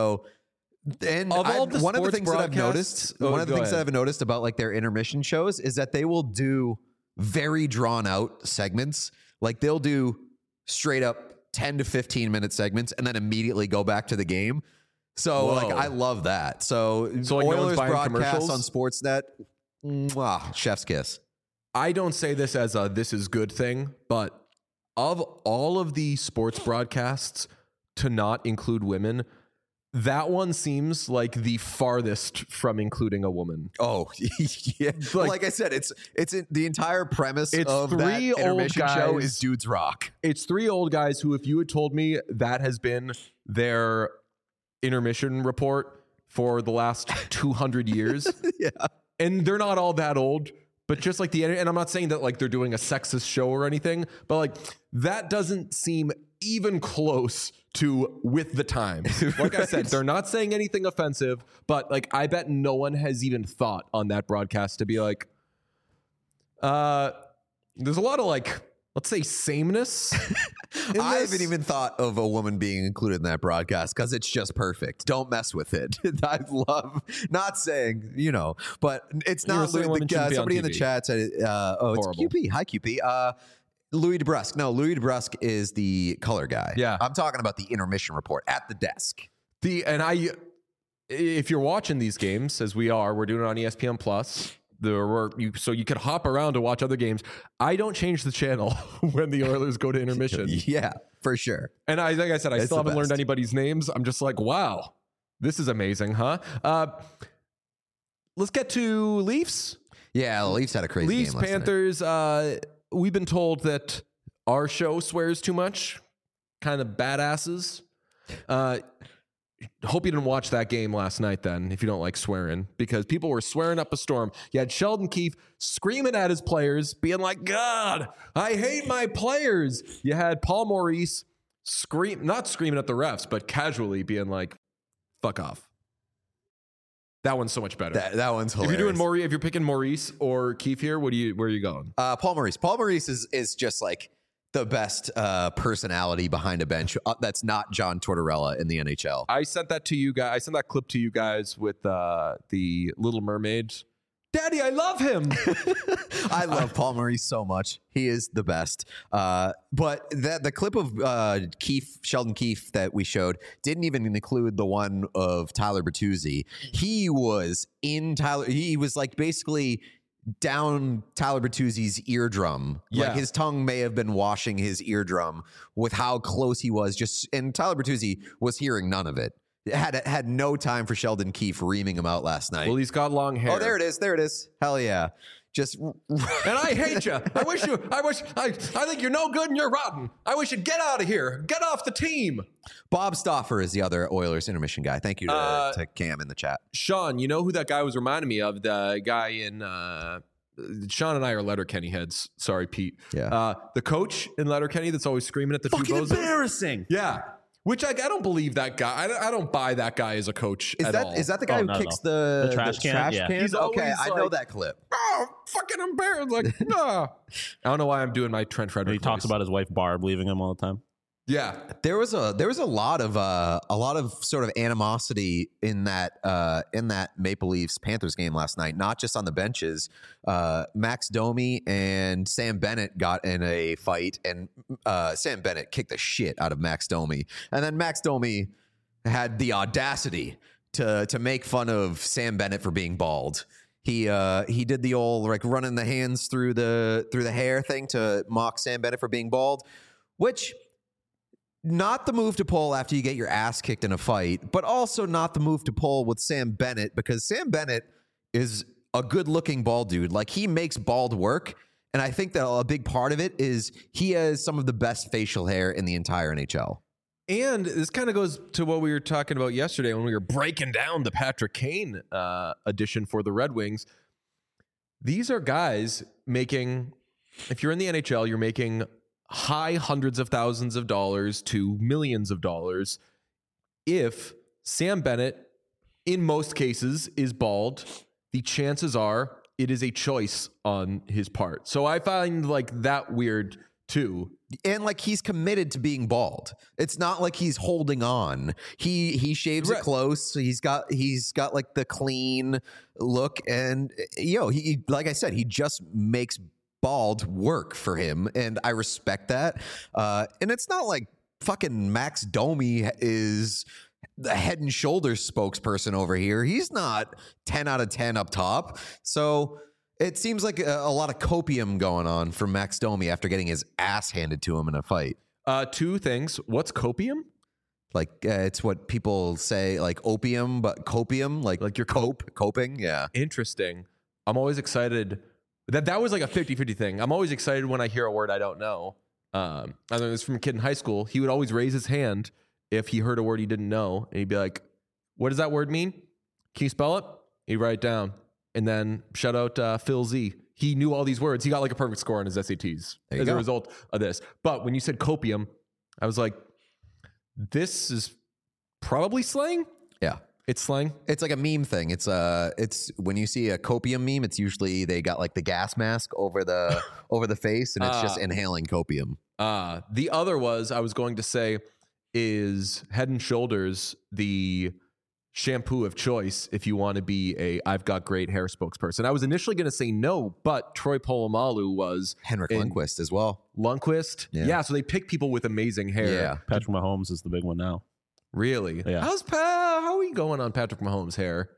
the things that I've noticed about like their intermission shows is that they will do very drawn out segments. Like they'll do straight up 10 to 15 minute segments and then immediately go back to the game. So like I love that. So like Oilers no broadcast on Sportsnet. Mwah, chef's kiss. I don't say this as a this is good thing, but of all of the sports broadcasts to not include women, that one seems like the farthest from including a woman. Oh, yeah. Like I said, it's the entire premise of that intermission show is dudes rock. It's 3 old guys who, if you had told me that has been their intermission report for the last 200 years, yeah. And they're not all that old, but just like and I'm not saying that like they're doing a sexist show or anything, but like that doesn't seem even close to with the times. Like I said, they're not saying anything offensive, but like I bet no one has even thought on that broadcast to be like, there's a lot of like, let's say sameness. I haven't even thought of a woman being included in that broadcast because it's just perfect. Don't mess with it. I love not saying, but it's not somebody in the chat said, it's QP. Hi, QP. Louis DeBrusque. No, Louis DeBrusque is the color guy. Yeah. I'm talking about the intermission report at the desk. If you're watching these games, as we are, we're doing it on ESPN Plus. So you could hop around to watch other games. I don't change the channel when the Oilers go to intermission. Yeah, for sure. And like I said, I still haven't learned anybody's names. I'm just like, wow, this is amazing, huh? Let's get to Leafs. Yeah, the Leafs had a crazy Leafs, game last Panthers. We've been told that our show swears too much. Kind of badasses. Hope you didn't watch that game last night then, if you don't like swearing, because people were swearing up a storm. You had Sheldon Keefe screaming at his players, being like, God, I hate my players. You had Paul Maurice not screaming at the refs, but casually being like, fuck off. That one's so much better. That one's hilarious. If you're picking Maurice or Keefe here, where are you going? Paul Maurice. Paul Maurice is just like the best personality behind a bench that's not John Tortorella in the NHL. I sent that to you guys. I sent that clip to you guys with the Little Mermaid. Daddy, I love him. I love Paul Murray so much. He is the best. But the clip of Sheldon Keefe that we showed didn't even include the one of Tyler Bertuzzi. He was he was like basically down Tyler Bertuzzi's eardrum. Yeah. Like his tongue may have been washing his eardrum with how close he was. And Tyler Bertuzzi was hearing none of it. Had no time for Sheldon Keefe reaming him out last night. Well, he's got long hair. Oh, there it is. There it is. Hell yeah. Just And I hate you. I think you're no good and you're rotten. I wish you'd get out of here. Get off the team. Bob Stauffer is the other Oilers intermission guy. Thank you to Cam in the chat. Sean, you know who that guy was reminding me of? The guy in Sean and I are Letterkenny heads. Sorry, Pete. Yeah. The coach in Letterkenny that's always screaming at the two bozos. Embarrassing. Yeah. Which I don't believe that guy. I don't buy that guy as a coach at all. Is that the guy who kicks the trash can? Yeah. cans? He's Okay, always I know like- that clip. Oh, fucking embarrassed. Like, nah. I don't know why I'm doing my Trent Frederick He talks voice. about his wife Barb leaving him all the time. Yeah. There was a lot of sort of animosity in that Maple Leafs Panthers game last night. Not just on the benches. Max Domi and Sam Bennett got in a fight, and Sam Bennett kicked the shit out of Max Domi, and then Max Domi had the audacity to make fun of Sam Bennett for being bald. He did the old like running the hands through the hair thing to mock Sam Bennett for being bald, which. Not the move to pull after you get your ass kicked in a fight, but also not the move to pull with Sam Bennett, because Sam Bennett is a good-looking bald dude. Like, he makes bald work, and I think that a big part of it is he has some of the best facial hair in the entire NHL. And this kind of goes to what we were talking about yesterday when we were breaking down the Patrick Kane edition for the Red Wings. These are guys making, if you're in the NHL, you're making high hundreds of thousands of dollars to millions of dollars. If Sam Bennett, in most cases, is bald, the chances are it is a choice on his part. So I find like that weird too. And like, he's committed to being bald. It's not like he's holding on. He shaves it close. So he's got like the clean look, and he like I said, he just makes bald work for him, and I respect that. And it's not like fucking Max Domi is the Head and Shoulders spokesperson over here. He's not 10 out of 10 up top. So it seems like a lot of copium going on for Max Domi after getting his ass handed to him in a fight. Two things. What's copium? Like it's what people say, like opium, but copium, like you're coping. Yeah. Interesting. I'm always excited. That was like a 50-50 thing. I'm always excited when I hear a word I don't know. I learned this from a kid in high school. He would always raise his hand if he heard a word he didn't know. And he'd be like, what does that word mean? Can you spell it? He'd write it down. And then shout out Phil Z. He knew all these words. He got like a perfect score on his SATs as a result of this. But when you said copium, I was like, this is probably slang. Yeah. It's slang. It's like a meme thing. It's when you see a copium meme, it's usually they got like the gas mask over the face, and it's just inhaling copium. The other I was going to say is Head and Shoulders, the shampoo of choice if you want to be a I've got great hair spokesperson. I was initially going to say no, but Troy Polamalu was Henrik Lundqvist as well. Lundqvist, yeah. So they pick people with amazing hair. Yeah, Patrick Mahomes is the big one now. Really? Yeah. How are we going on Patrick Mahomes' hair?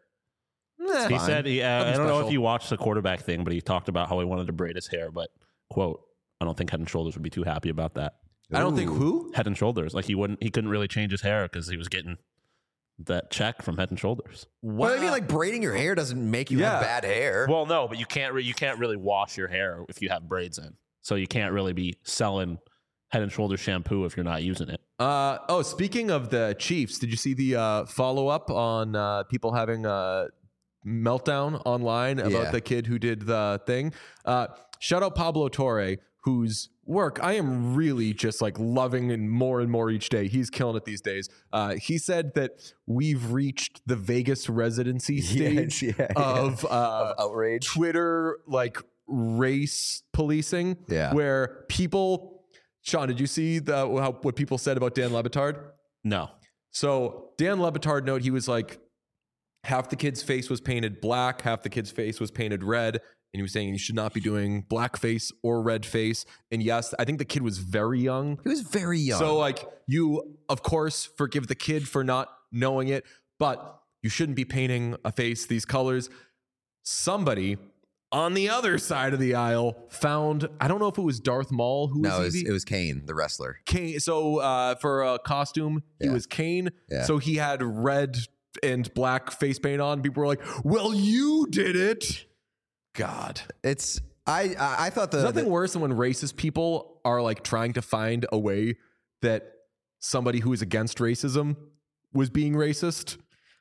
He said, I don't know special. if you watched the quarterback thing, but he talked about how he wanted to braid his hair. But quote, I don't think Head and Shoulders would be too happy about that. I don't think who? Head and Shoulders. Like he couldn't really change his hair because he was getting that check from Head and Shoulders. Well, I mean, like braiding your hair doesn't make you have bad hair. Well, no, but you can't really wash your hair if you have braids in. So you can't really be selling Head and Shoulders shampoo if you're not using it. Speaking of the Chiefs, did you see the follow-up on people having a meltdown online about the kid who did the thing? Shout out Pablo Torre, whose work I am really just like loving and more each day. He's killing it these days. He said that we've reached the Vegas residency stage of outrage, Twitter, like race policing, where people Sean, did you see what people said about Dan Le Batard? No. So Dan Le Batard note, he was like, half the kid's face was painted black, half the kid's face was painted red. And he was saying you should not be doing black face or red face. And yes, I think the kid was very young. He was very young. So like you, of course, forgive the kid for not knowing it, but you shouldn't be painting a face these colors. Somebody on the other side of the aisle found, I don't know if it was Darth Maul who was it was Kane, the wrestler. Kane. So for a costume, he was Kane. Yeah. So he had red and black face paint on. People were like, well, you did it. God. It's I thought there's nothing worse than when racist people are like trying to find a way that somebody who is against racism was being racist.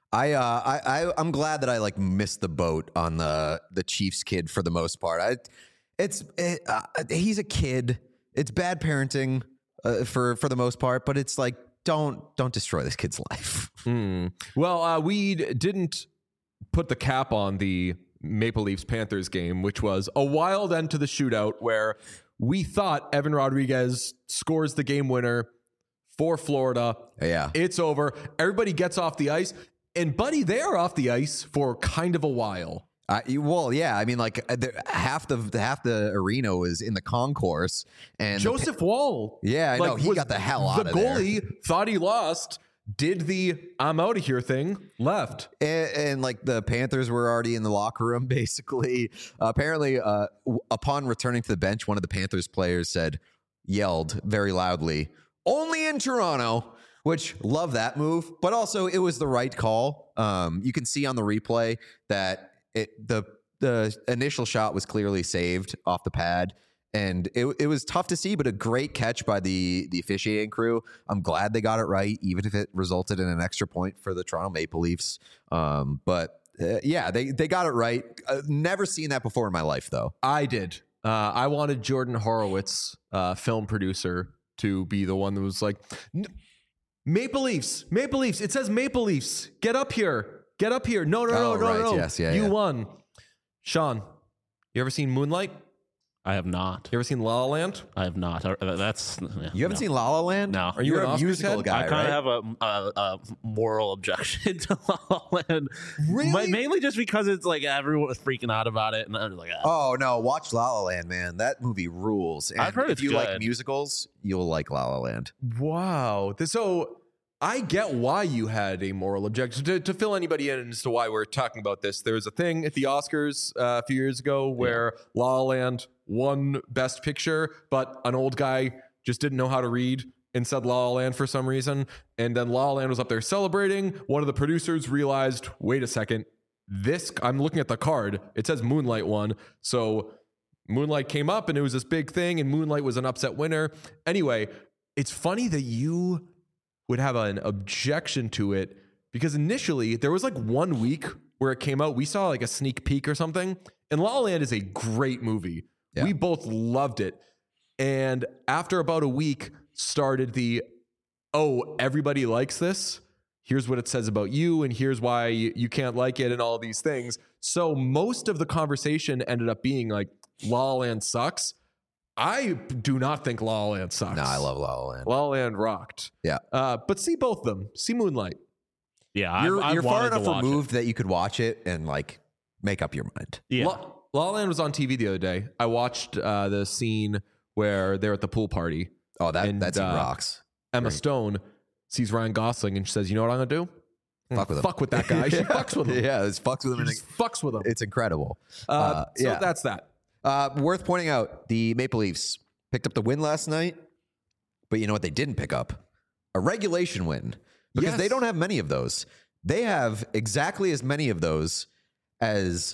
I'm glad that I like missed the boat on the Chiefs kid for the most part. He's a kid. It's bad parenting for the most part, but it's like don't destroy this kid's life. Well, we didn't put the cap on the Maple Leafs Panthers game, which was a wild end to the shootout where we thought Evan Rodriguez scores the game winner for Florida. Yeah. It's over. Everybody gets off the ice. And buddy, they are off the ice for kind of a while. Well, yeah. I mean, like half the arena was in the concourse, and Joseph Woll. Yeah, I know he got the hell out of there. The goalie thought he lost, did the "I'm out of here" thing, left, and like the Panthers were already in the locker room. Basically, apparently, upon returning to the bench, one of the Panthers players yelled very loudly, "Only in Toronto." Which love that move, but also it was the right call. You can see on the replay that the initial shot was clearly saved off the pad, and it was tough to see, but a great catch by the officiating crew. I'm glad they got it right, even if it resulted in an extra point for the Toronto Maple Leafs. But they got it right. Never seen that before in my life, though. I did. I wanted Jordan Horowitz, film producer, to be the one that was like, Maple Leafs. It says Maple Leafs. Get up here. No. Yes, you won. Sean, you ever seen Moonlight? I have not. You ever seen La La Land? I have not. You haven't seen La La Land? No. Are you a musical guy? I kind of have a moral objection to La La Land. Really? Mainly just because it's like everyone was freaking out about it, and I was like, oh no, watch La La Land, man. That movie rules. And I've heard if you like musicals, you'll like La La Land. Wow. So I get why you had a moral objection. To fill anybody in as to why we're talking about this, there was a thing at the Oscars a few years ago where La La Land won Best Picture, but an old guy just didn't know how to read and said La La Land for some reason. And then La La Land was up there celebrating. One of the producers realized, wait a second, I'm looking at the card. It says Moonlight won. So Moonlight came up and it was this big thing, and Moonlight was an upset winner. Anyway, it's funny that you would have an objection to it, because initially there was like 1 week where it came out. We saw like a sneak peek or something, and La La Land is a great movie. Yeah. We both loved it. And after about a week started everybody likes this. Here's what it says about you, and here's why you can't like it, and all these things. So most of the conversation ended up being like, La La Land sucks. I do not think La La Land sucks. No, I love La La Land. La La Land rocked. Yeah. But see both of them. See Moonlight. Yeah, you're far enough removed that you could watch it and like make up your mind. Yeah. La La Land was on TV the other day. I watched the scene where they're at the pool party. Oh, that scene rocks. Emma Stone sees Ryan Gosling and she says, "You know what I'm gonna do? Fuck with him. Fuck with that guy." She fucks with him. Yeah, it's fucks with him. Fucks with him. It's incredible. So that's that. Worth pointing out, the Maple Leafs picked up the win last night, but you know what they didn't pick up? A regulation win, because they don't have many of those. They have exactly as many of those as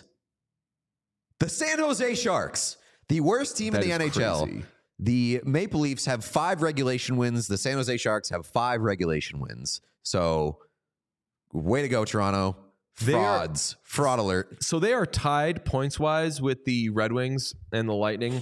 the San Jose Sharks, the worst team in the NHL. Crazy. The Maple Leafs have 5 regulation wins. The San Jose Sharks have 5 regulation wins. So, way to go, Toronto. Fraud alert. So they are tied points-wise with the Red Wings and the Lightning.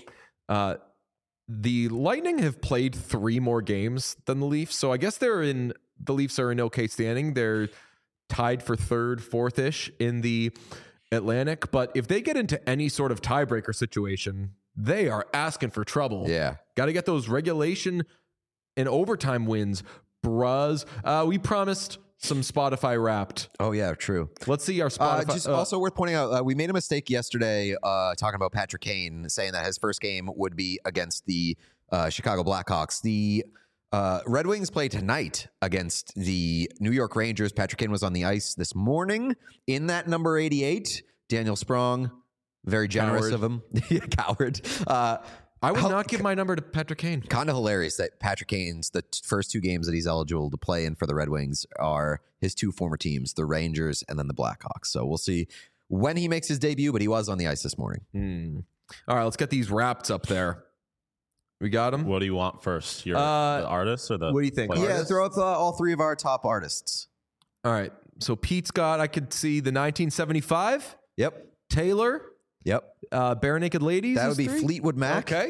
The Lightning have played 3 more games than the Leafs. So I guess the Leafs are in okay standing. They're tied for 3rd, 4th-ish in the Atlantic. But if they get into any sort of tiebreaker situation, they are asking for trouble. Yeah. Got to get those regulation and overtime wins, bruz. We promised some Spotify Wrapped. Oh yeah, true. Let's see our Spotify. Just also worth pointing out, we made a mistake yesterday talking about Patrick Kane, saying that his first game would be against the Chicago Blackhawks. The Red Wings play tonight against the New York Rangers. Patrick Kane was on the ice this morning in that number 88. Daniel Sprong, very generous of him. Coward. I would not give my number to Patrick Kane. Kind of hilarious that Patrick Kane's first two games that he's eligible to play in for the Red Wings are his two former teams, the Rangers and then the Blackhawks. So we'll see when he makes his debut, but he was on the ice this morning. All right, let's get these wraps up there. We got them. What do you want first? Your the artist or the? What do you think? player? Yeah, throw up all three of our top artists. All right. So Pete's got, I could see the 1975, Yep. Taylor, Yep. Bare Naked Ladies. That is would be 3? Fleetwood Mac. Okay.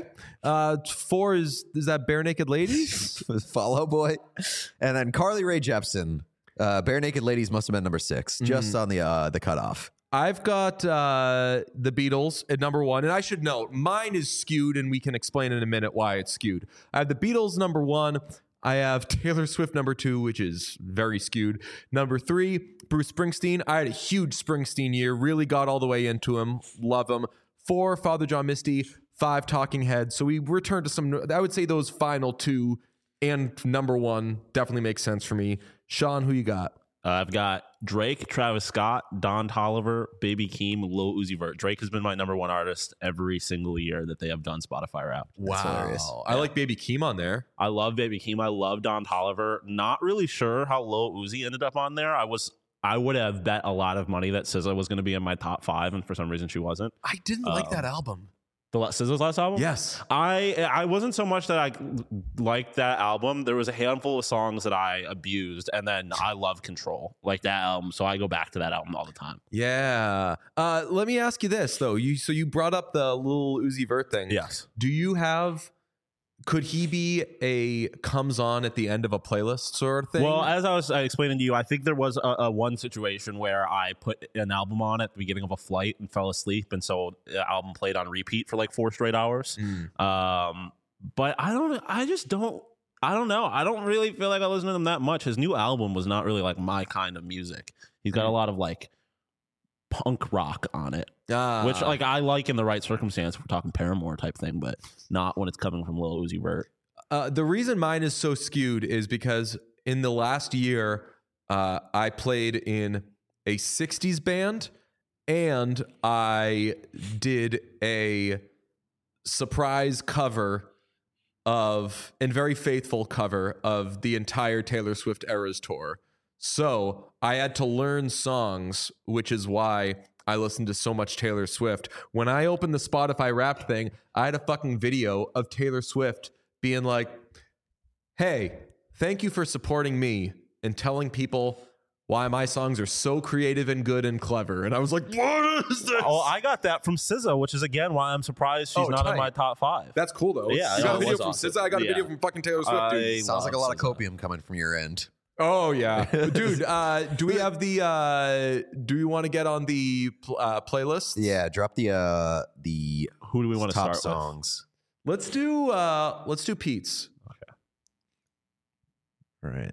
4 is that Bare Naked Ladies? Fall Out Boy. And then Carly Rae Jepsen. Bare Naked Ladies must have been number 6, just on the cutoff. I've got the Beatles at number 1. And I should note, mine is skewed, and we can explain in a minute why it's skewed. I have the Beatles number 1. I have Taylor Swift number 2, which is very skewed. Number 3, Bruce Springsteen. I had a huge Springsteen year. Really got all the way into him. Love him. 4, Father John Misty. 5, Talking Heads. So we return to some, I would say those final 2 and number 1 definitely makes sense for me. Sean, who you got? I've got Drake, Travis Scott, Don Toliver, Baby Keem, Lil Uzi Vert. Drake has been my number 1 artist every single year that they have done Spotify Wrapped. Wow. I like Baby Keem on there. I love Baby Keem. I love Don Toliver. Not really sure how Lil Uzi ended up on there. I would have bet a lot of money that SZA was going to be in my top 5, and for some reason she wasn't. I didn't like that album. SZA's last album? Yes. I wasn't so much that I liked that album. There was a handful of songs that I abused, and then I love Control, like that album. So I go back to that album all the time. Yeah. Let me ask you this though. You brought up the Lil Uzi Vert thing. Yes. Do you have? Could he be a comes on at the end of a playlist sort of thing? Well, as I was explaining to you, I think there was a one situation where I put an album on at the beginning of a flight and fell asleep, and so the album played on repeat for like 4 straight hours. But I don't know. I don't really feel like I listen to him that much. His new album was not really like my kind of music. He's got a lot of like punk rock on it, which like I like in the right circumstance. We're talking Paramore type thing, but not when it's coming from Lil Uzi Vert. The reason mine is so skewed is because in the last year, I played in a 60s band and I did a surprise cover and very faithful cover of the entire Taylor Swift Eras tour. So I had to learn songs, which is why I listened to so much Taylor Swift. When I opened the Spotify Wrapped thing, I had a fucking video of Taylor Swift being like, hey, thank you for supporting me and telling people why my songs are so creative and good and clever. And I was like, what is this? Oh, I got that from SZA, which is again why I'm surprised she's not in my top 5. That's cool though. Yeah, you got a it video was from awesome. SZA. I got a Yeah. video from fucking Taylor Swift. Dude. Sounds like a lot of copium coming from your end. Oh yeah, dude. Do we have the? Do you want to get on the playlist? Yeah, drop the Who do we want to top start songs. Let's do Pete's. All right.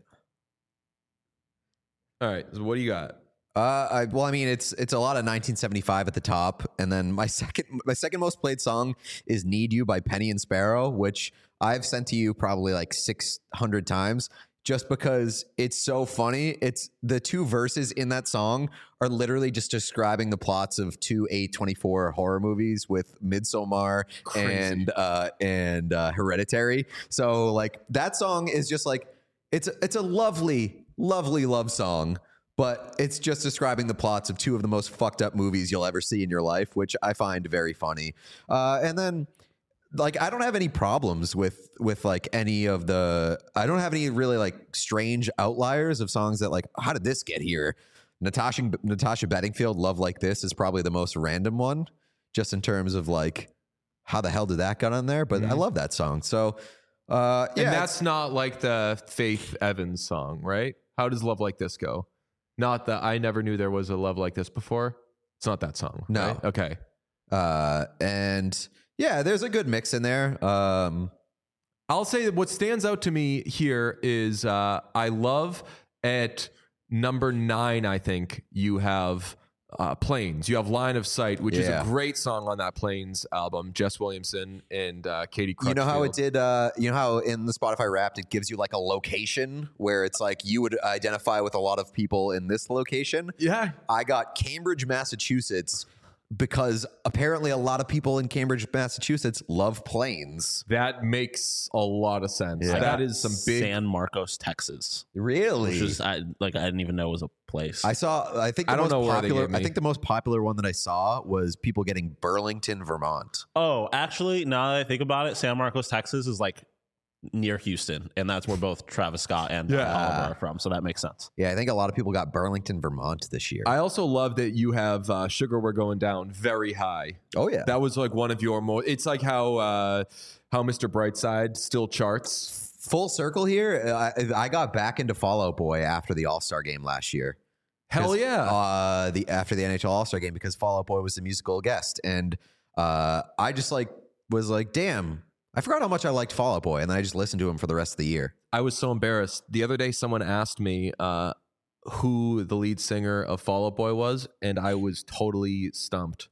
All right. So what do you got? Well, I mean, it's a lot of 1975 at the top, and then my second most played song is "Need You" by Penny and Sparrow, which I've sent to you probably like 600 times. Just because it's so funny. It's the 2 verses in that song are literally just describing the plots of 2 A24 horror movies with Midsommar and Hereditary. So like that song is just like it's a lovely love song, but it's just describing the plots of 2 of the most fucked up movies you'll ever see in your life, which I find very funny. And then like I don't have any problems with like any of the I don't have any really like strange outliers of songs that like how did this get here? Natasha Bedingfield, Love Like This is probably the most random one just in terms of like how the hell did that get on there, but I love that song. So yeah, And that's not like the Faith Evans song, right? How does Love Like This go? Not the I Never Knew There Was a Love Like This Before. It's not that song. No. Right? Okay. And Yeah, there's a good mix in there. I'll say that what stands out to me here is I love at number 9, I think, you have Planes. You have Line of Sight, which is a great song on that Planes album. Jess Williamson and Katie Crutchfield. You know how it did, you know how in the Spotify Wrapped it gives you like a location where it's like you would identify with a lot of people in this location? Yeah. I got Cambridge, Massachusetts, because apparently a lot of people in Cambridge, Massachusetts love planes. That makes a lot of sense. Yeah. That is some big... San Marcos, Texas. Really? Which is I didn't even know it was a place. I think I don't know where they gave me. I think the most popular one that I saw was people getting Burlington, Vermont. Oh, actually, now that I think about it, San Marcos, Texas is like near Houston, and that's where both Travis Scott and Oliver are from, so that makes sense. Yeah, I think a lot of people got Burlington, Vermont this year. I also love that you have Sugar We're Going Down very high. Oh, yeah. That was like one of your more... It's like how Mr. Brightside still charts. Full circle here, I got back into Fall Out Boy after the All-Star game last year. Hell yeah. After the NHL All-Star game, because Fall Out Boy was the musical guest. And I just was like, damn, I forgot how much I liked Fall Out Boy. And then I just listened to him for the rest of the year. I was so embarrassed. The other day, someone asked me who the lead singer of Fall Out Boy was, and I was totally stumped.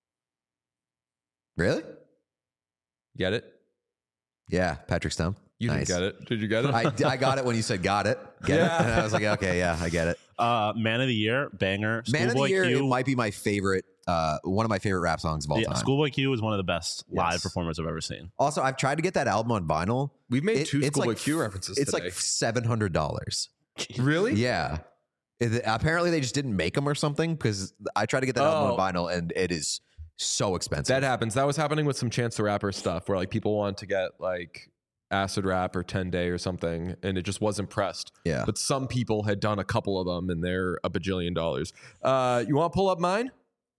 Really? Get it? Yeah, Patrick Stump. You Nice. didn't get it. Did you get it? I got it when you said got it. Get it? And I was like, okay, yeah, I get it. Man of the Year, banger. Man of the Schoolboy Year, Q. it might be my favorite, one of my favorite rap songs of all time. Schoolboy Q is one of the best live Yes. performers I've ever seen. Also, I've tried to get that album on vinyl. We've made two it's Schoolboy Q references It's today. like $700. Really? Yeah. Apparently, they just didn't make them or something, because I tried to get that album on vinyl, and it is so expensive. That happens. That was happening with some Chance the Rapper stuff where like people want to get like Acid Rap or 10 Day or something, and it just wasn't pressed. Yeah. But some people had done a couple of them, and they're $1 bajillion. You want to pull up mine?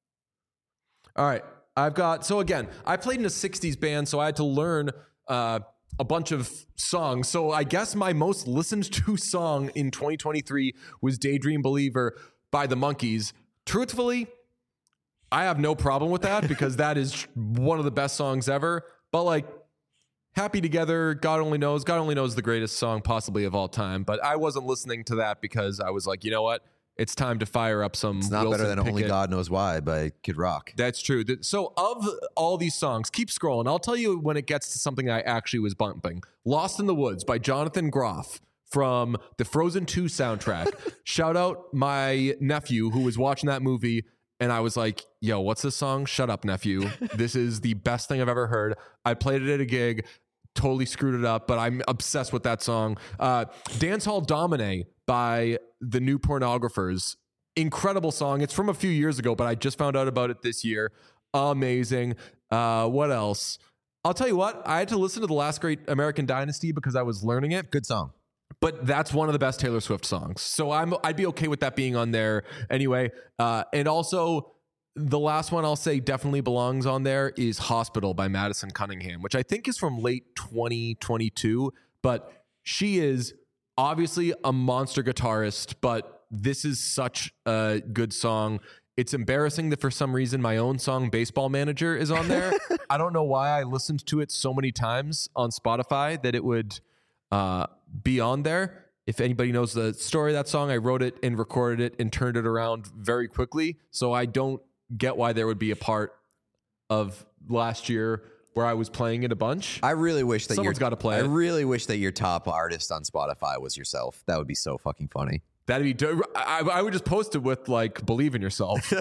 All right. I've got, so again, I played in a 60s band, so I had to learn a bunch of songs. So I guess my most listened to song in 2023 was Daydream Believer by the Monkees. Truthfully, I have no problem with that because that is one of the best songs ever. But like, Happy Together, God Only Knows the greatest song possibly of all time. But I wasn't listening to that because I was like, you know what? It's time to fire up some. It's not Wilson better than Only Pickett. God Knows Why by Kid Rock. That's true. So of all these songs, keep scrolling. I'll tell you when it gets to something I actually was bumping. Lost in the Woods by Jonathan Groff from the Frozen 2 soundtrack. Shout out my nephew who was watching that movie. And I was like, yo, what's this song? Shut up, nephew. This is the best thing I've ever heard. I played it at a gig, totally screwed it up, but I'm obsessed with that song. Dance Hall Domine by the New Pornographers. Incredible song. It's from a few years ago, but I just found out about it this year. Amazing. What else? I'll tell you what, I had to listen to The Last Great American Dynasty because I was learning it. Good song. But that's one of the best Taylor Swift songs. So I'd be okay with that being on there anyway. And also, the last one I'll say definitely belongs on there is Hospital by Madison Cunningham, which I think is from late 2022. But she is obviously a monster guitarist, but this is such a good song. It's embarrassing that for some reason my own song Baseball Manager is on there. I don't know why I listened to it so many times on Spotify that it would be on there. If anybody knows the story of that song, I wrote it and recorded it and turned it around very quickly. So I don't get why there would be a part of last year where I was playing it a bunch. I really wish that Someone's gotta play I it. really wish that your top artist on Spotify was yourself. That would be so fucking funny. That'd be I would just post it with like believe in yourself.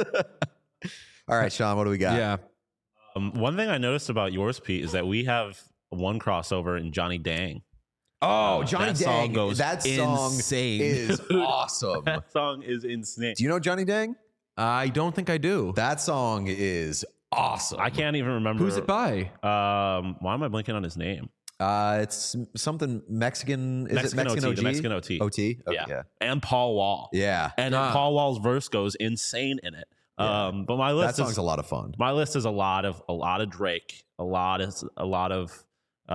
All right, Sean, what do we got? Yeah. One thing I noticed about yours, Pete, is that we have one crossover in Johnny Dang. Oh, Johnny that song Dang. goes That song insane. is awesome. That song is insane. Do you know Johnny Dang? I don't think I do. That song is awesome. I can't even remember. Who's it by? Why am I blanking on his name? It's something Mexican. Is it Mexican OT, OG? the Mexican OT. OT? Okay, Yeah. And Paul Wall. Yeah. And Paul Wall's verse goes insane in it. But my That list song's is a lot of fun. my list is a lot of Drake, a lot of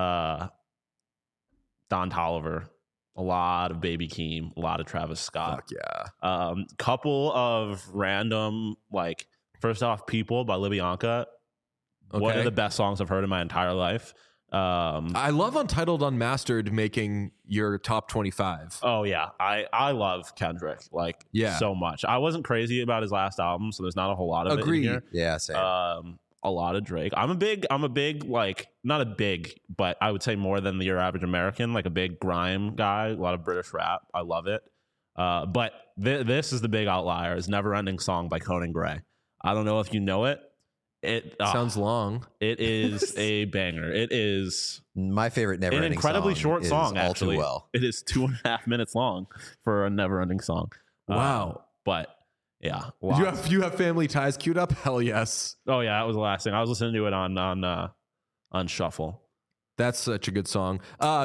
Don Toliver, a lot of Baby Keem, a lot of Travis Scott. Fuck yeah. Couple of random, like, first off, People by LaBianca. One Okay. of the best songs I've heard in my entire life. I love Untitled Unmastered making your top 25. Oh yeah, I love Kendrick like Yeah. so much. I wasn't crazy about his last album, so there's not a whole lot of Agreed. it in here. Yeah, same. A lot of Drake. I'm a big like not a big, but I would say more than your average American, like a big grime guy. A lot of British rap. I love it. But this is the big outlier. Is Never Ending Song by Conan Gray. I don't know if you know it. It Sounds long. It is a banger. It is My favorite Never an Ending incredibly song short is song. All Actually, Too Well. it is 2.5 minutes long for a Never Ending Song. Wow. But yeah, You have Family Ties queued up? Hell yes. Oh yeah, that was the last thing. I was listening to it on shuffle. That's such a good song.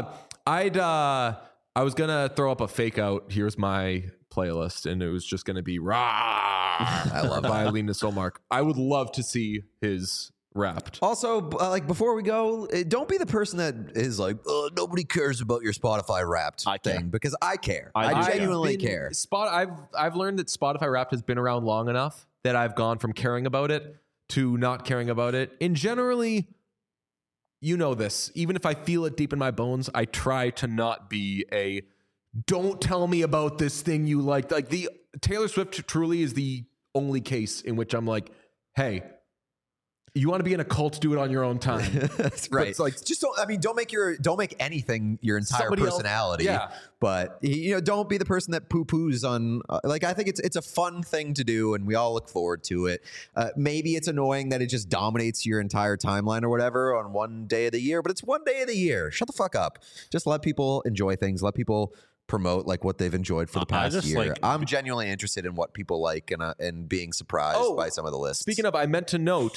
I was gonna throw up a fake out. Here's my playlist, and it was just gonna be "Rah." I love by Alina Solmark. I would love to see his rapped. Also, like before we go, don't be the person that is like, oh, nobody cares about your Spotify Wrapped I care. thing, because I care. I I do. genuinely care. I've learned that Spotify Wrapped has been around long enough that I've gone from caring about it to not caring about it. And generally, you know this. Even if I feel it deep in my bones, I try to not be a don't tell me about this thing you like. Like the Taylor Swift truly is the only case in which I'm like, hey, you want to be in a cult, do it on your own time. That's right. it's like- just don't make anything your entire Somebody else- personality. yeah. But don't be the person that poo-poos on. Like, I think it's a fun thing to do, and we all look forward to it. Maybe it's annoying that it just dominates your entire timeline or whatever on one day of the year, but it's one day of the year. Shut the fuck up. Just let people enjoy things. Let people promote like what they've enjoyed for the I past just, year. like- I'm genuinely interested in what people like and being surprised by some of the lists. Speaking of, I meant to note,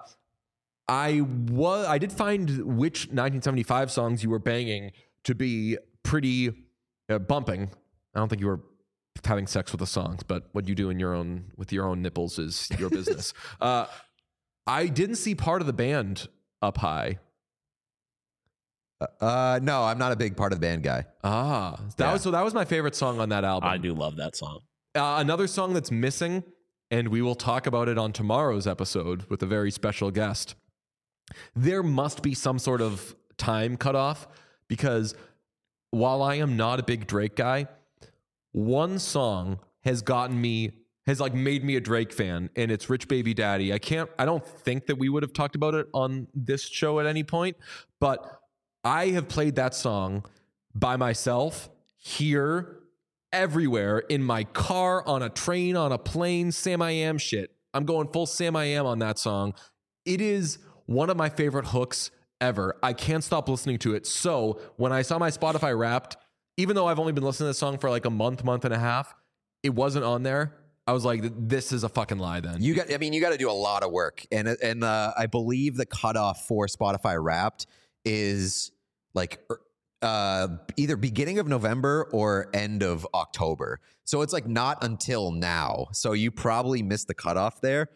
I did find which 1975 songs you were banging to be pretty bumping. I don't think you were having sex with the songs, but what you do with your own nipples is your business. I didn't see Part of the Band up high. No, I'm not a big Part of the Band guy. That was my favorite song on that album. I do love that song. Another song that's missing, and we will talk about it on tomorrow's episode with a very special guest. There must be some sort of time cutoff, because while I am not a big Drake guy, one song has made me a Drake fan, and it's Rich Baby Daddy. I don't think that we would have talked about it on this show at any point, but I have played that song by myself here, everywhere, in my car, on a train, on a plane, Sam I Am shit. I'm going full Sam I Am on that song. It is one of my favorite hooks ever. I can't stop listening to it. So when I saw my Spotify Wrapped, even though I've only been listening to this song for like a month and a half, it wasn't on there. I was like, this is a fucking lie then. You got to do a lot of work. And I believe the cutoff for Spotify Wrapped is like either beginning of November or end of October. So it's like not until now. So you probably missed the cutoff there.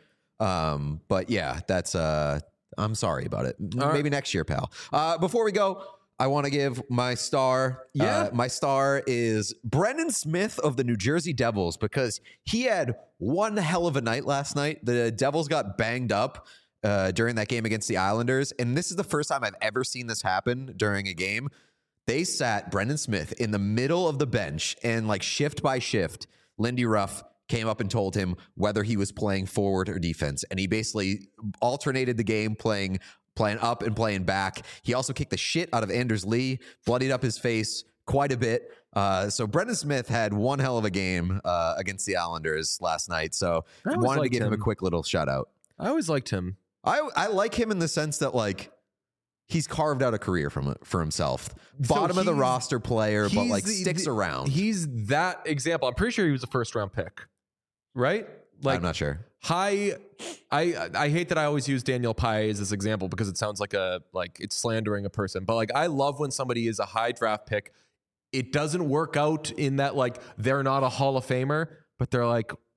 But yeah, that's I'm sorry about it. Maybe next year, pal. Before we go, I want to give my star. Yeah. My star is Brendan Smith of the New Jersey Devils, because he had one hell of a night last night. The Devils got banged up during that game against the Islanders. And this is the first time I've ever seen this happen during a game. They sat Brendan Smith in the middle of the bench, and like shift by shift, Lindy Ruff came up and told him whether he was playing forward or defense. And he basically alternated the game, playing up and playing back. He also kicked the shit out of Anders Lee, bloodied up his face quite a bit. So Brendan Smith had one hell of a game against the Islanders last night. So I always wanted to liked give him a him. quick little shout out. I always liked him. I like him in the sense that like he's carved out a career for himself. Bottom of the he's- roster player, but He's like the- sticks around. He's that example. I'm pretty sure he was a first round pick, right? Like I'm not sure. I hate that I always use Daniel Pye as this example because it sounds like it's slandering a person. But like I love when somebody is a high draft pick. It doesn't work out in that like they're not a Hall of Famer, but they're like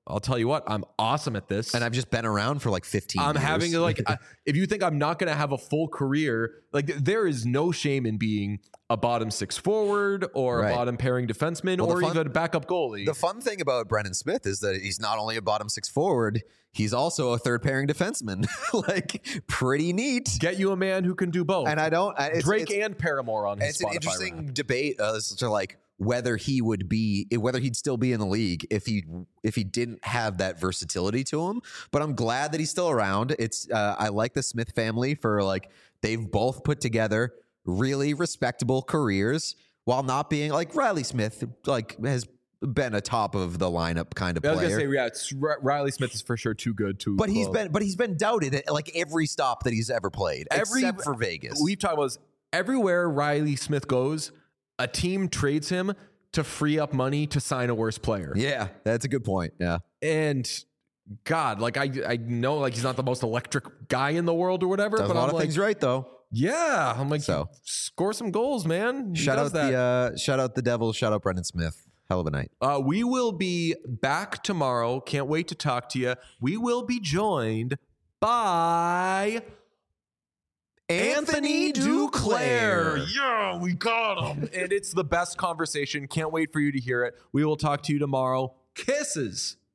I'll tell you what, I'm awesome at this. And I've just been around for like 15 I'm years. having if you think I'm not going to have a full career, like there is no shame in being a bottom 6 forward or Right. a bottom pairing defenseman Well, or even a backup goalie. The fun thing about Brendan Smith is that he's not only a bottom 6 forward, he's also a third pairing defenseman. Like, pretty neat. Get you a man who can do both. And I don't. Drake and Paramore on his It's an Spotify interesting rap. debate as to like whether he'd still be in the league if he didn't have that versatility to him. But I'm glad that he's still around. It's I like the Smith family for like they've both put together really respectable careers while not being like Riley Smith like has been a top of the lineup kind of I was player. gonna say, yeah, Riley Smith is for sure too good to. But he's been doubted at like every stop that he's ever played, except for Vegas. We've talked about this. Everywhere Riley Smith goes, a team trades him to free up money to sign a worse player. Yeah, that's a good point. Yeah. And God, like I know like he's not the most electric guy in the world or whatever, Does but a lot I'm of like, things right though. yeah, I'm like, So. score some goals, man. He Shout does out the Devils. Shout out Brendan Smith. Hell of a night. We will be back tomorrow. Can't wait to talk to you. We will be joined by Anthony Duclair. Yeah, we got him. And it's the best conversation. Can't wait for you to hear it. We will talk to you tomorrow. Kisses.